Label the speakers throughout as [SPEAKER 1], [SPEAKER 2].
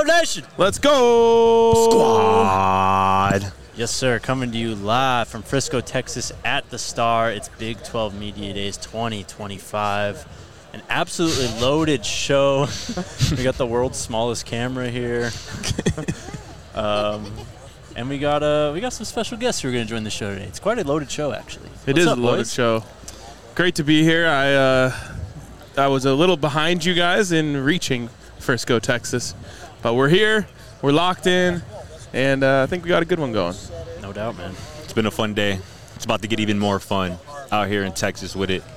[SPEAKER 1] Nation.
[SPEAKER 2] Let's go.
[SPEAKER 3] Squad.
[SPEAKER 1] Yes, sir. Coming to you live from Frisco, Texas at the Star. It's Big 12 Media Days 2025. An absolutely loaded show. We got the world's smallest camera here. And we got some special guests who are going to join the show today. It's quite a loaded show, actually.
[SPEAKER 2] It is a loaded show. Great to be here. I was a little behind you guys in reaching Frisco, Texas. But we're here. We're locked in. And I think we got a good one going.
[SPEAKER 1] No doubt, man.
[SPEAKER 3] It's been a fun day. It's about to get even more fun out here in Texas with it.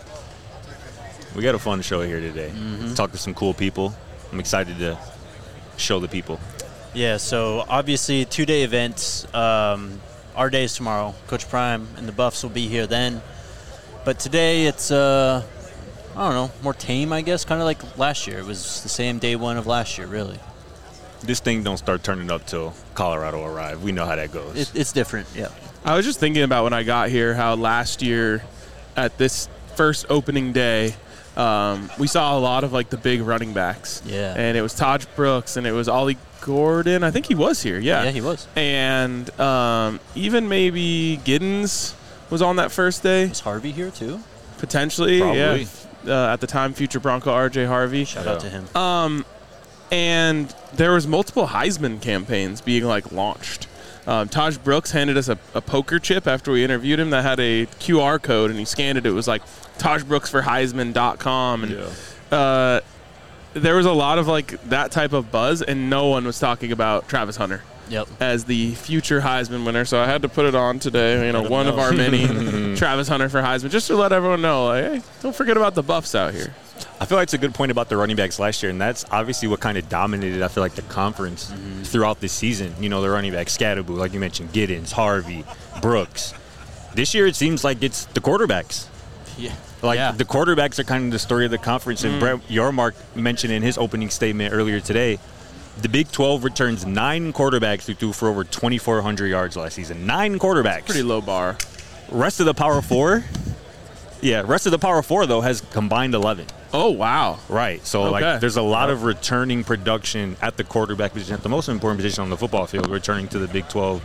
[SPEAKER 3] We got a fun show here today. Talk to some cool people. I'm excited to show the people.
[SPEAKER 1] Yeah, so obviously 2-day events. Our day is tomorrow. Coach Prime and the Buffs will be here then. But today it's, I don't know, more tame, I guess, kind of like last year. It was the same day one of last year, really.
[SPEAKER 3] This thing don't start turning up till Colorado arrive. We know how that goes.
[SPEAKER 1] It's different, yeah.
[SPEAKER 2] I was just thinking about when I got here how last year at this first opening day, we saw a lot of like the big running backs.
[SPEAKER 1] Yeah.
[SPEAKER 2] And it was Taj Brooks and it was Ollie Gordon. I think he was here, yeah.
[SPEAKER 1] Yeah, he was.
[SPEAKER 2] And even maybe Giddens was on that first day.
[SPEAKER 1] Was Harvey here too?
[SPEAKER 2] Potentially,
[SPEAKER 3] Probably.
[SPEAKER 2] yeah. At the time, future Bronco R.J. Harvey.
[SPEAKER 1] Shout out to him.
[SPEAKER 2] And there was multiple Heisman campaigns being like launched. Taj Brooks handed us a poker chip after we interviewed him that had a QR code, and he scanned it. It was like TajBrooksForHeisman.com. And there was a lot of like that type of buzz, and no one was talking about Travis Hunter as the future Heisman winner. So I had to put it on today, one of our many Travis Hunter for Heisman, just to let everyone know, like, hey, don't forget about the Buffs out here.
[SPEAKER 3] I feel like it's a good point about the running backs last year, and that's obviously what kind of dominated, I feel like, the conference throughout this season. The running backs, Scatterbo, like you mentioned, Giddens, Harvey, Brooks. This year it seems like it's the quarterbacks.
[SPEAKER 1] Yeah.
[SPEAKER 3] The quarterbacks are kind of the story of the conference, and Brett Yormark mentioned in his opening statement earlier today, the Big 12 returns 9 quarterbacks who threw for over 2,400 yards last season. 9 quarterbacks.
[SPEAKER 2] Pretty low bar.
[SPEAKER 3] Rest of the Power 4, though, has combined 11.
[SPEAKER 2] Oh, wow.
[SPEAKER 3] Right. So, there's a lot of returning production at the quarterback position, at the most important position on the football field, returning to the Big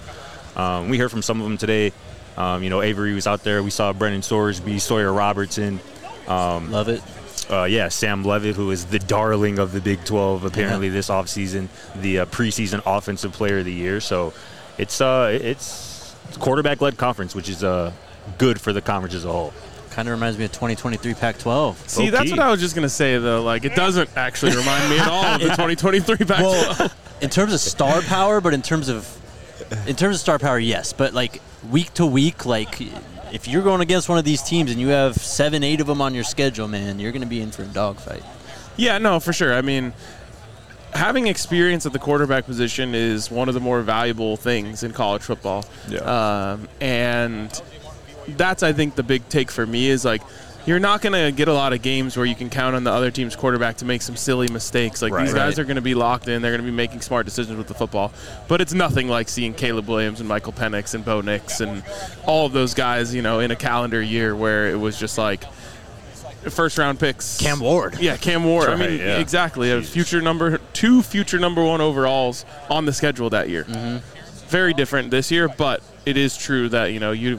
[SPEAKER 3] 12. We heard from some of them today. Avery was out there. We saw Brennan Sorsby, Sawyer Robertson.
[SPEAKER 1] Love it.
[SPEAKER 3] Sam Levitt, who is the darling of the Big 12, apparently this offseason, the preseason offensive player of the year. So it's a quarterback-led conference, which is good for the conference as a whole.
[SPEAKER 1] Kind of reminds me of 2023 Pac-12.
[SPEAKER 2] See, that's what I was just going to say, though. Like, it doesn't actually remind me at all of the 2023 Pac-12.
[SPEAKER 1] Well, in terms of star power, but in terms of star power, yes. But, like, week to week, like, if you're going against one of these teams and you have 7-8 of them on your schedule, man, you're going to be in for a dogfight.
[SPEAKER 2] Yeah, no, for sure. I mean, having experience at the quarterback position is one of the more valuable things in college football.
[SPEAKER 3] Yeah.
[SPEAKER 2] And that's, I think, the big take for me is, like, you're not going to get a lot of games where you can count on the other team's quarterback to make some silly mistakes. Like, these guys are going to be locked in. They're going to be making smart decisions with the football. But it's nothing like seeing Caleb Williams and Michael Penix and Bo Nix and all of those guys, in a calendar year where it was just like first-round picks.
[SPEAKER 1] Cam Ward.
[SPEAKER 2] Yeah, Cam Ward.
[SPEAKER 3] Right,
[SPEAKER 2] exactly. A two future number 1 overalls on the schedule that year. Very different this year, but it is true that, you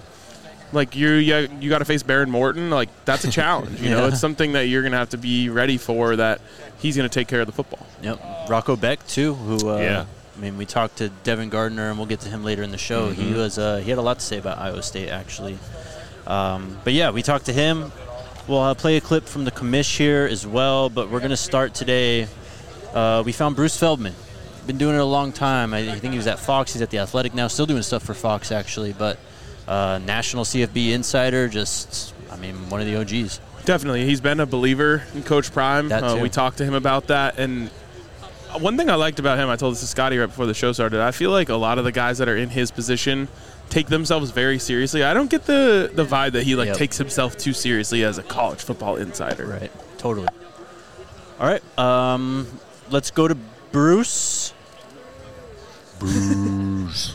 [SPEAKER 2] got to face Baron Morton. Like, that's a challenge. It's something that you're going to have to be ready for, that he's going to take care of the football.
[SPEAKER 1] Yep. Rocco Beck, too, who, we talked to Devin Gardner, and we'll get to him later in the show. He had a lot to say about Iowa State, actually. But, yeah, we talked to him. We'll play a clip from the commish here as well, but we're going to start today. We found Bruce Feldman. Been doing it a long time. I think he was at Fox. He's at The Athletic now, still doing stuff for Fox, actually, but national CFB insider, one of the OGs.
[SPEAKER 2] Definitely. He's been a believer in Coach Prime.
[SPEAKER 1] That too.
[SPEAKER 2] We talked to him about that. And one thing I liked about him, I told this to Scotty right before the show started, I feel like a lot of the guys that are in his position take themselves very seriously. I don't get the vibe that he takes himself too seriously as a college football insider.
[SPEAKER 1] Right. Totally. All right. Let's go to Bruce.
[SPEAKER 3] Bruce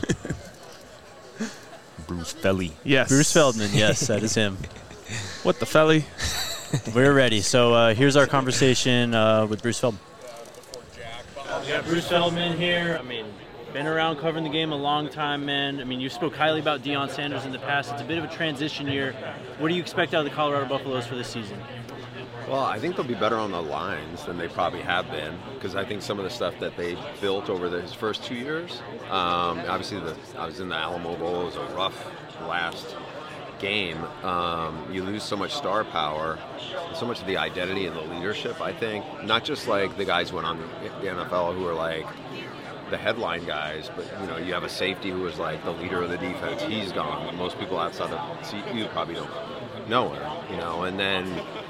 [SPEAKER 3] Felly.
[SPEAKER 2] Yes.
[SPEAKER 1] Bruce Feldman. Yes, that is him.
[SPEAKER 2] What the Felly?
[SPEAKER 1] We're ready. So here's our conversation with Bruce Feldman. We got Bruce Feldman here. I mean, been around covering the game a long time, man. I mean, you spoke highly about Deion Sanders in the past. It's a bit of a transition year. What do you expect out of the Colorado Buffaloes for this season?
[SPEAKER 4] Well, I think they'll be better on the lines than they probably have been, because I think some of the stuff that they built over his first 2 years, obviously I was in the Alamo Bowl. It was a rough last game. You lose so much star power, so much of the identity and the leadership, I think. Not just like the guys who went on the NFL who are like the headline guys, but you have a safety who was like the leader of the defense. He's gone. Most people outside of CU probably don't know him, and then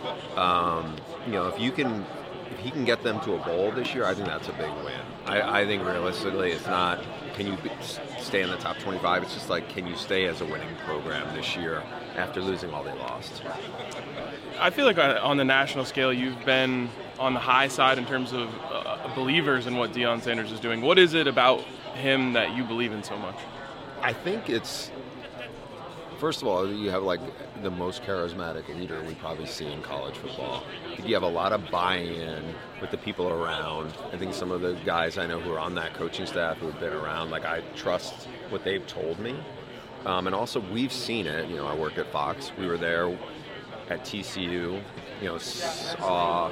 [SPEAKER 4] if he can get them to a bowl this year, I think that's a big win. I think realistically it's not can you stay in the top 25, it's just like can you stay as a winning program this year after losing all they lost.
[SPEAKER 2] I feel like on the national scale you've been on the high side in terms of believers in what Deion Sanders is doing. What is it about him that you believe in so much?
[SPEAKER 4] I think it's, first of all, you have like the most charismatic leader we probably see in college football. I think you have a lot of buy-in with the people around. I think some of the guys I know who are on that coaching staff who have been around, like I trust what they've told me. And also we've seen it. I work at Fox. We were there at TCU. Saw.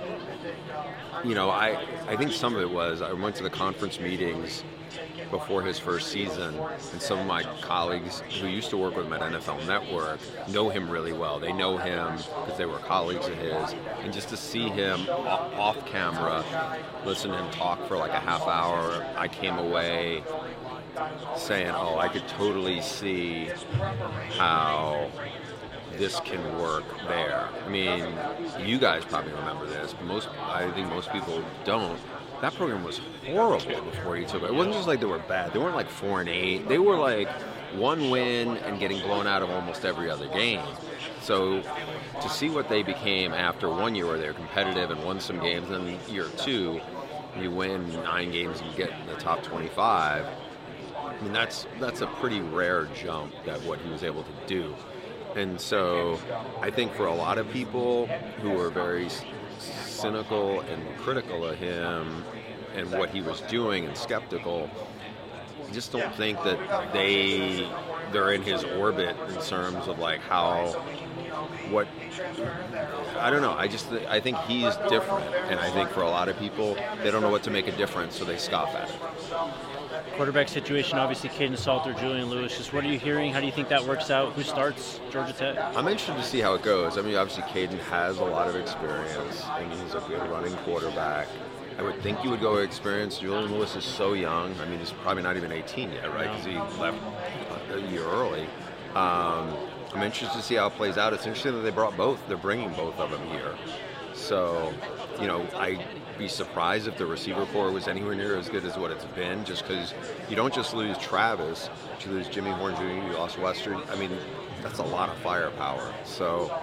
[SPEAKER 4] I think some of it was I went to the conference meetings before his first season, and some of my colleagues who used to work with him at NFL Network know him really well. They know him because they were colleagues of his, and just to see him off camera, listen to him talk for like a half hour, I came away saying, I could totally see how this can work there. I mean, you guys probably remember this, but I think most people don't. That program was horrible before he took it. It wasn't just like they were bad. They weren't like 4-8. They were like one win and getting blown out of almost every other game. So to see what they became after 1 year where they were competitive and won some games, and then year two, you win 9 games and you get in the top 25. I mean, that's a pretty rare jump that what he was able to do. And so I think for a lot of people who are very cynical and critical of him and what he was doing and skeptical, I just don't think that they're in his orbit in terms of like I don't know. I think he's different, and I think for a lot of people, they don't know what to make a difference, so they scoff at it.
[SPEAKER 1] Quarterback situation, obviously Caden Salter, Julian Lewis. Just what are you hearing? How do you think that works out? Who starts Georgia Tech?
[SPEAKER 4] I'm interested to see how it goes. I mean, obviously Caden has a lot of experience, and he's a good running quarterback. I would think you would go with experience. Julian Lewis is so young. I mean, he's probably not even 18 yet, right? Because he left a year early. I'm interested to see how it plays out. It's interesting that they brought both. They're bringing both of them here. So, I'd be surprised if the receiver core was anywhere near as good as what it's been, just because you don't just lose Travis, but you lose Jimmy Horn Jr., you lost Western. I mean, that's a lot of firepower. So,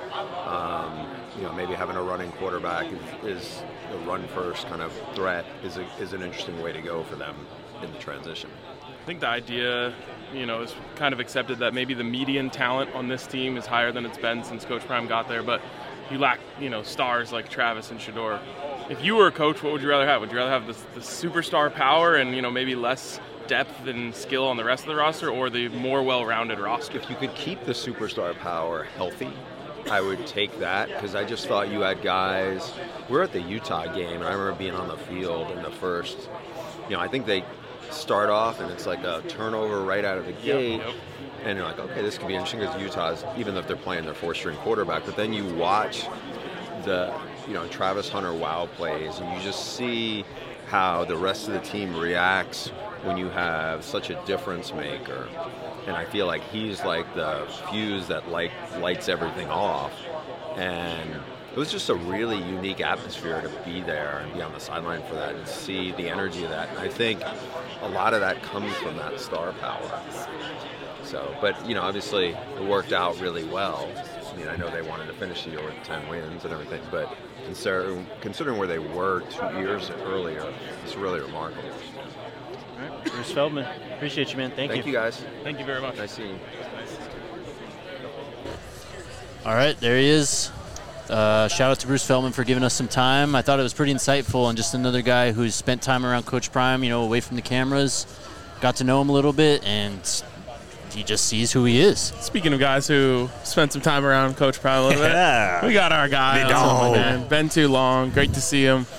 [SPEAKER 4] maybe having a running quarterback is a run-first kind of threat is an interesting way to go for them in the transition.
[SPEAKER 2] I think the idea, is kind of accepted that maybe the median talent on this team is higher than it's been since Coach Prime got there, but you lack, stars like Travis and Shedeur. If you were a coach, what would you rather have? Would you rather have the superstar power and, maybe less depth and skill on the rest of the roster, or the more well-rounded roster?
[SPEAKER 4] If you could keep the superstar power healthy, I would take that, because I just thought you had guys. We're at the Utah game, and I remember being on the field in the first, I think they start off and it's like a turnover right out of the gate. Yep. And you're like, okay, this could be interesting, because Utah's, even if they're playing their 4-string quarterback, but then you watch the, Travis Hunter wow plays, and you just see how the rest of the team reacts when you have such a difference maker. And I feel like he's like the fuse that lights everything off. And it was just a really unique atmosphere to be there and be on the sideline for that and see the energy of that. And I think a lot of that comes from that star power. So, but, obviously it worked out really well. I mean, I know they wanted to finish the year with 10 wins and everything, but considering where they were 2 years earlier, it's really remarkable.
[SPEAKER 1] All right, Bruce Feldman, appreciate you, man. Thank you.
[SPEAKER 4] Thank you, guys.
[SPEAKER 2] Thank you very much.
[SPEAKER 4] Nice seeing you.
[SPEAKER 1] All right, there he is. Shout out to Bruce Feldman for giving us some time. I thought it was pretty insightful, and just another guy who's spent time around Coach Prime, away from the cameras. Got to know him a little bit, and he just sees who he is.
[SPEAKER 2] Speaking of guys who spent some time around Coach Prime a little bit, we got our guy. Been too long. Great to see him.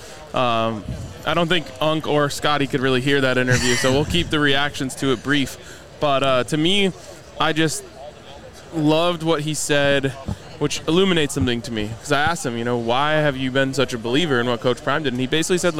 [SPEAKER 2] I don't think Unc or Scotty could really hear that interview, so we'll keep the reactions to it brief. But to me, I just loved what he said, which illuminates something to me. Because I asked him, why have you been such a believer in what Coach Prime did? And he basically said,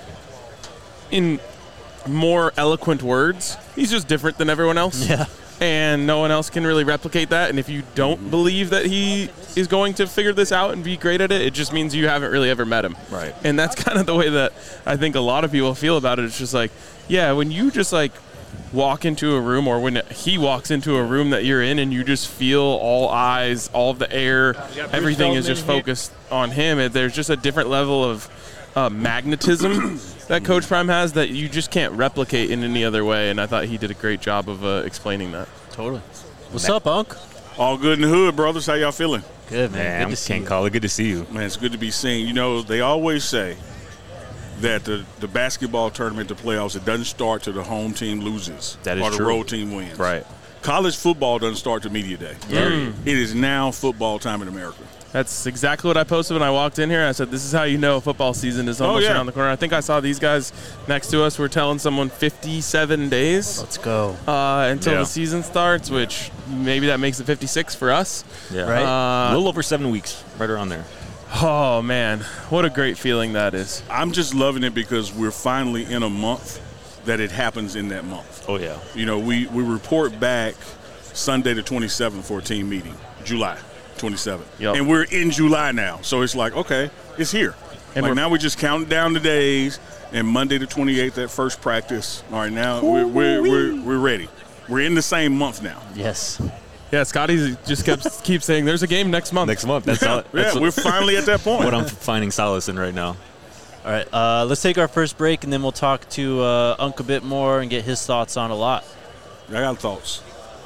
[SPEAKER 2] in more eloquent words, he's just different than everyone else.
[SPEAKER 1] Yeah.
[SPEAKER 2] And no one else can really replicate that. And if you don't believe that he is going to figure this out and be great at it, it just means you haven't really ever met him.
[SPEAKER 3] Right.
[SPEAKER 2] And that's kind of the way that I think a lot of people feel about it. It's just when you just walk into a room, or when he walks into a room that you're in, and you just feel all eyes, all of the air, everything is just focused on him. There's just a different level of magnetism that Coach Prime has that you just can't replicate in any other way, and I thought he did a great job of explaining that.
[SPEAKER 1] Totally. What's up, Unc?
[SPEAKER 5] All good in the hood, brothers. How y'all feeling?
[SPEAKER 1] Good, man.
[SPEAKER 3] Good to see you. Call it good to see you.
[SPEAKER 5] Man, it's good to be seen. They always say that the basketball tournament, the playoffs, it doesn't start till the home team loses.
[SPEAKER 3] That is
[SPEAKER 5] or the
[SPEAKER 3] true.
[SPEAKER 5] road team wins.
[SPEAKER 3] Right.
[SPEAKER 5] College football doesn't start till media day. It is now football time in America.
[SPEAKER 2] That's exactly what I posted when I walked in here. I said, this is how you know football season is almost around the corner. I think I saw these guys next to us were telling someone 57 days.
[SPEAKER 1] Let's go.
[SPEAKER 2] Until the season starts, which maybe that makes it 56 for us.
[SPEAKER 3] Yeah.
[SPEAKER 1] Right.
[SPEAKER 3] A little over 7 weeks, right around there.
[SPEAKER 2] Oh, man. What a great feeling that is.
[SPEAKER 5] I'm just loving it because we're finally in a month that it happens in that month.
[SPEAKER 3] Oh, yeah.
[SPEAKER 5] We report back Sunday the 27th for a team meeting, July 27th.
[SPEAKER 2] Yep.
[SPEAKER 5] And we're in July now. So it's okay, it's here. And now we're just counting down the days, and Monday the 28th, that first practice. All right, now we're ready. We're in the same month now.
[SPEAKER 1] Yes.
[SPEAKER 2] Yeah, Scotty just keeps saying there's a game next month.
[SPEAKER 3] Next month. That's all.
[SPEAKER 5] We're finally at that point.
[SPEAKER 3] What I'm finding solace in right now.
[SPEAKER 1] All right, let's take our first break, and then we'll talk to Unc a bit more and get his thoughts on a lot.
[SPEAKER 5] I got thoughts.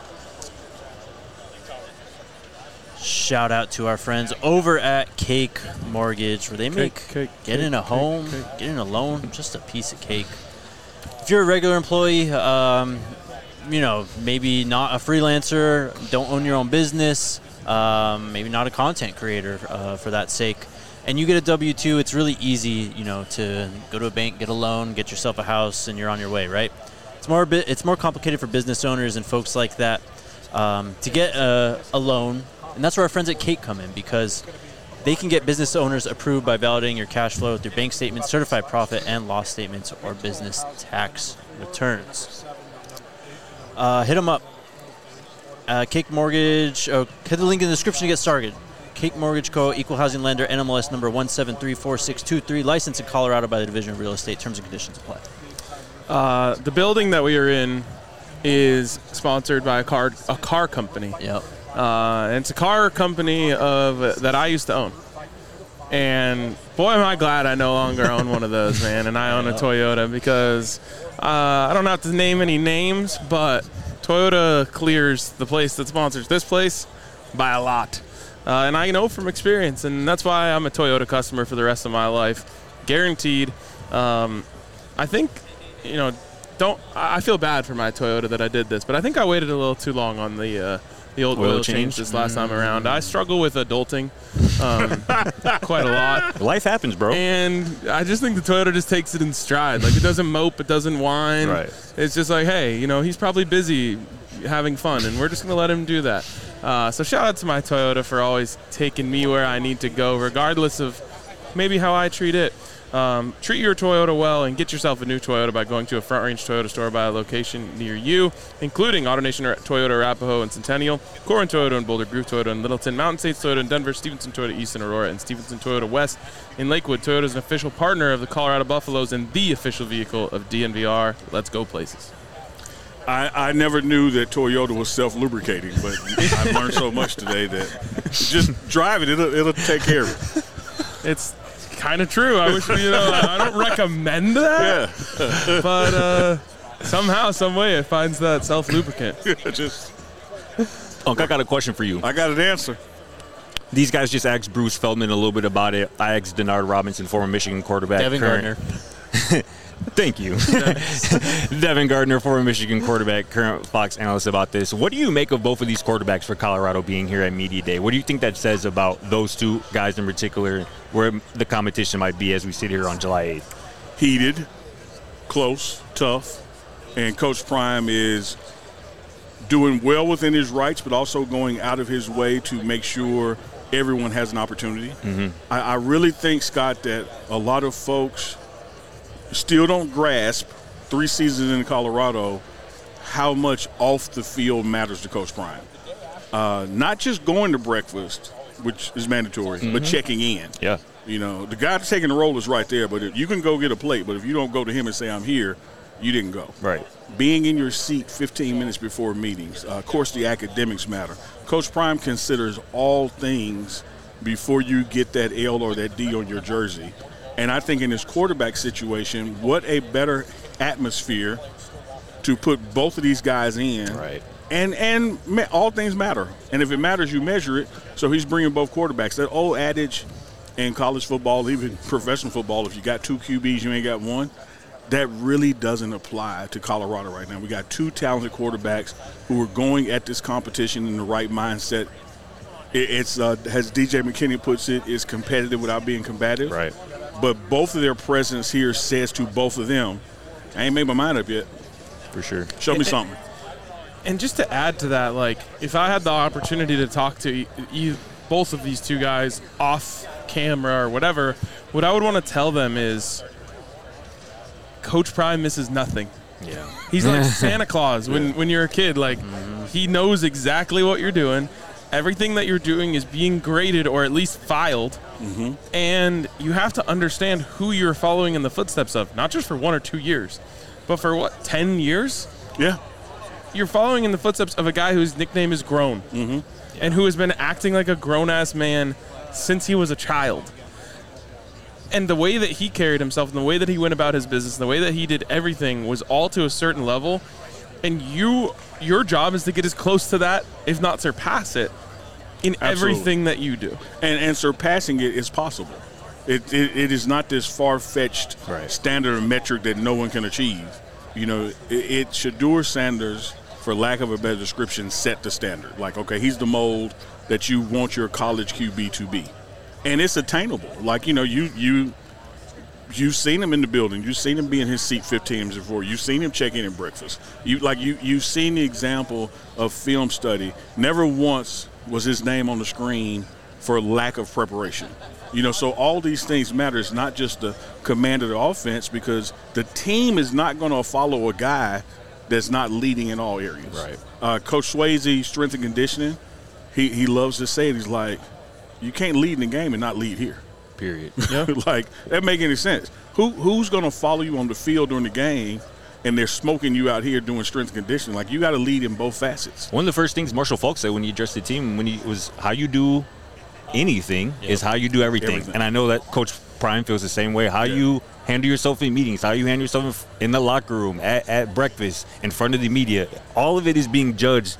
[SPEAKER 1] Shout out to our friends over at Cake Mortgage, where they make getting a home, getting a loan, just a piece of cake. If you're a regular employee, maybe not a freelancer, don't own your own business, maybe not a content creator for that sake, and you get a W-2, it's really easy, to go to a bank, get a loan, get yourself a house, and you're on your way, right? It's more complicated for business owners and folks like that to get a loan. And that's where our friends at Cake come in, because they can get business owners approved by validating your cash flow through bank statements, certified profit and loss statements, or business tax returns. Hit them up. Cake Mortgage. Hit the link in the description to get started. Cake Mortgage Co., Equal Housing Lender, NMLS number 1734623, licensed in Colorado by the Division of Real Estate. Terms and conditions apply.
[SPEAKER 2] The building that we are in is sponsored by a car company.
[SPEAKER 1] Yep.
[SPEAKER 2] And it's a car company that I used to own. And boy, am I glad I no longer own one of those, man. And I own a Toyota because I don't have to name any names, but Toyota clears the place that sponsors this place by a lot. And I know from experience, and that's why I'm a Toyota customer for the rest of my life. Guaranteed. I think, I feel bad for my Toyota that I did this, but I think I waited a little too long on the old oil change this last time around. I struggle with adulting quite a lot.
[SPEAKER 3] Life happens, bro.
[SPEAKER 2] And I just think the Toyota just takes it in stride. It doesn't mope, it doesn't whine.
[SPEAKER 3] Right.
[SPEAKER 2] It's just hey, he's probably busy having fun, and we're just going to let him do that. So shout out to my Toyota for always taking me where I need to go, regardless of maybe how I treat it. Treat your Toyota well and get yourself a new Toyota by going to a Front Range Toyota store by a location near you, including AutoNation Toyota Arapahoe and Centennial, Corin Toyota and Boulder, Groove Toyota in Littleton, Mountain States Toyota in Denver, Stevenson Toyota East in Aurora, and Stevenson Toyota West in Lakewood. Toyota is an official partner of the Colorado Buffaloes and the official vehicle of DNVR. Let's go places.
[SPEAKER 5] I never knew that Toyota was self-lubricating, but I've learned so much today that just drive it, it'll take care of it.
[SPEAKER 2] It's kind of true. I wish, I don't recommend that. Yeah. But somehow, some way, it finds that self-lubricant.
[SPEAKER 3] I got a question for you.
[SPEAKER 5] I got an answer.
[SPEAKER 3] These guys just asked Bruce Feldman a little bit about it. I asked Denard Robinson, former Michigan quarterback.
[SPEAKER 1] Devin Gardner.
[SPEAKER 3] Thank you. Devin Gardner, former Michigan quarterback, current Fox analyst, about this. What do you make of both of these quarterbacks for Colorado being here at Media Day? What do you think that says about those two guys in particular, where the competition might be as we sit here on July 8th?
[SPEAKER 5] Heated, close, tough, and Coach Prime is doing well within his rights, but also going out of his way to make sure everyone has an opportunity.
[SPEAKER 3] Mm-hmm.
[SPEAKER 5] I really think, Scott, that a lot of folks still don't grasp 3 seasons in Colorado how much off the field matters to Coach Prime. Not just going to breakfast, which is mandatory, but checking in.
[SPEAKER 3] Yeah.
[SPEAKER 5] You know, the guy taking the roll is right there, but you can go get a plate, but if you don't go to him and say, I'm here, you didn't go.
[SPEAKER 3] Right.
[SPEAKER 5] Being in your seat 15 minutes before meetings. Of course, the academics matter. Coach Prime considers all things before you get that L or that D on your jersey. And I think in this quarterback situation, what a better atmosphere to put both of these guys in.
[SPEAKER 3] Right.
[SPEAKER 5] And all things matter. And if it matters, you measure it. So he's bringing both quarterbacks. That old adage in college football, even professional football, if you got 2 QBs, you ain't got one. That really doesn't apply to Colorado right now. We got 2 talented quarterbacks who are going at this competition in the right mindset. It's as DJ McKinney puts it, is competitive without being combative.
[SPEAKER 3] Right.
[SPEAKER 5] But both of their presence here says to both of them, I ain't made my mind up yet.
[SPEAKER 3] For sure.
[SPEAKER 5] Show me something.
[SPEAKER 2] And just to add to that, like, if I had the opportunity to talk to both of these two guys off camera or whatever, what I would want to tell them is Coach Prime misses nothing.
[SPEAKER 3] Yeah.
[SPEAKER 2] He's like Santa Claus when you're a kid. Like, he knows exactly what you're doing. Everything that you're doing is being graded or at least filed. And you have to understand who you're following in the footsteps of, not just for 1 or 2 years, but for, 10 years?
[SPEAKER 5] Yeah.
[SPEAKER 2] You're following in the footsteps of a guy whose nickname is Grown and who has been acting like a grown-ass man since he was a child. And the way that he carried himself and the way that he went about his business, the way that he did everything was all to a certain level. And your job is to get as close to that, if not surpass it, in everything that you do. And
[SPEAKER 5] surpassing it is possible. It is not this far-fetched standard or metric that no one can achieve. You know, Shedeur Sanders, for lack of a better description, set the standard. Like, okay, he's the mold that you want your college QB to be. And it's attainable. Like, you know, you've seen him in the building. You've seen him be in his seat 15 minutes before. You've seen him check in at breakfast. You've seen the example of film study. Never once was his name on the screen for lack of preparation. You know, so all these things matter. It's not just the command of the offense, because the team is not going to follow a guy that's not leading in all areas.
[SPEAKER 3] Right.
[SPEAKER 5] Coach Swayze, strength and conditioning, he loves to say it. He's like, you can't lead in the game and not lead here.
[SPEAKER 3] Period.
[SPEAKER 2] Yeah.
[SPEAKER 5] Like, that make any sense? Who's going to follow you on the field during the game and they're smoking you out here doing strength and conditioning? Like, you got to lead in both facets.
[SPEAKER 3] One of the first things Marshall Faulk said when he addressed the team was how you do anything is how you do everything. And I know that Coach Prime feels the same way. How you handle yourself in meetings, how you handle yourself in the locker room, at breakfast, in front of the media. All of it is being judged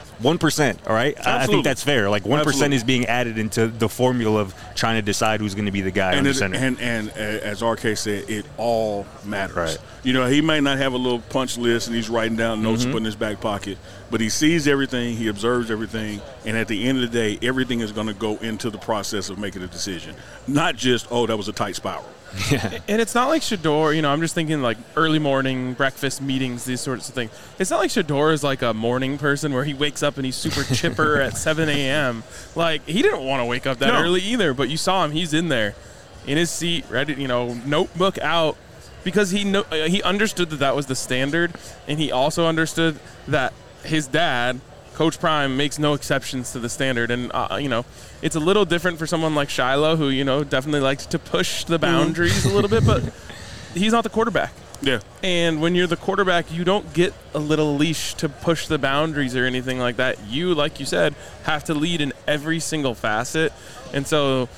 [SPEAKER 3] 1%, all right? I think that's fair. Like, 1% is being added into the formula of trying to decide who's going to be the guy on the center.
[SPEAKER 5] And as RK said, it all matters.
[SPEAKER 3] Right.
[SPEAKER 5] You know, he may not have a little punch list and he's writing down notes to put in his back pocket, but he sees everything, he observes everything, and at the end of the day, everything is going to go into the process of making a decision. Not just, oh, that was a tight spiral.
[SPEAKER 2] Yeah. And it's not like Shedeur, you know, I'm just thinking like early morning, breakfast meetings, these sorts of things. It's not like Shedeur is like a morning person where he wakes up and he's super chipper at 7 a.m. Like, he didn't want to wake up that early either, but you saw him, he's in there in his seat, ready, you know, notebook out, because he understood that was the standard, and he also understood that his dad, Coach Prime, makes no exceptions to the standard. And, you know, it's a little different for someone like Shiloh, who, you know, definitely likes to push the boundaries a little bit, but he's not the quarterback.
[SPEAKER 5] Yeah.
[SPEAKER 2] And when you're the quarterback, you don't get a little leash to push the boundaries or anything like that. You, like you said, have to lead in every single facet. And so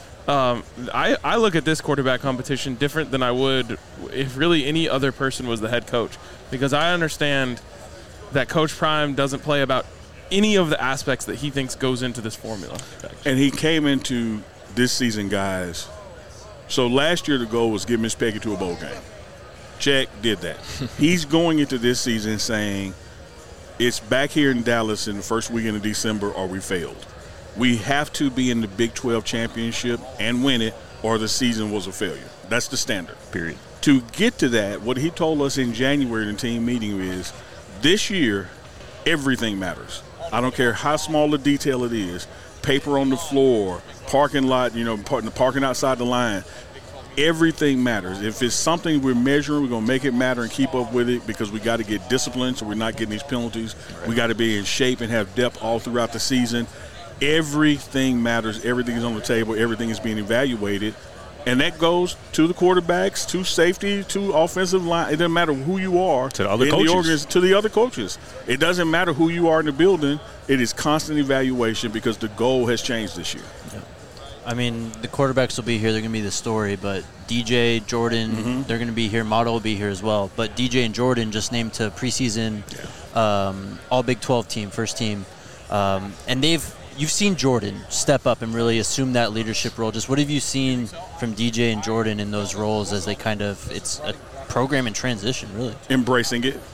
[SPEAKER 2] I look at this quarterback competition different than I would if really any other person was the head coach, because I understand that Coach Prime doesn't play about any of the aspects that he thinks goes into this formula.
[SPEAKER 5] And he came into this season, guys. So last year the goal was get Miss Peggy to a bowl game. Check, did that. He's going into this season saying it's back here in Dallas in the first weekend of December or we failed. We have to be in the Big 12 championship and win it or the season was a failure. That's the standard.
[SPEAKER 3] Period.
[SPEAKER 5] To get to that, what he told us in January in the team meeting is this year everything matters. I don't care how small a detail it is, paper on the floor, parking lot, parking outside the line. Everything matters. If it's something we're measuring, we're going to make it matter and keep up with it because we got to get disciplined so we're not getting these penalties. Right. We got to be in shape and have depth all throughout the season. Everything matters. Everything is on the table. Everything is being evaluated. And that goes to the quarterbacks, to safety, to offensive line. It doesn't matter who you are.
[SPEAKER 3] To the other coaches.
[SPEAKER 5] To the other coaches. It doesn't matter who you are in the building. It is constant evaluation because the goal has changed this year.
[SPEAKER 1] Yeah. I mean, the quarterbacks will be here. They're going to be the story. But DJ, Jordan, they're going to be here. Motto will be here as well. But DJ and Jordan just named to preseason all Big 12 team, first team. And you've seen Jordan step up and really assume that leadership role. Just what have you seen from DJ and Jordan in those roles as they it's a program in transition, really?
[SPEAKER 5] Embracing it.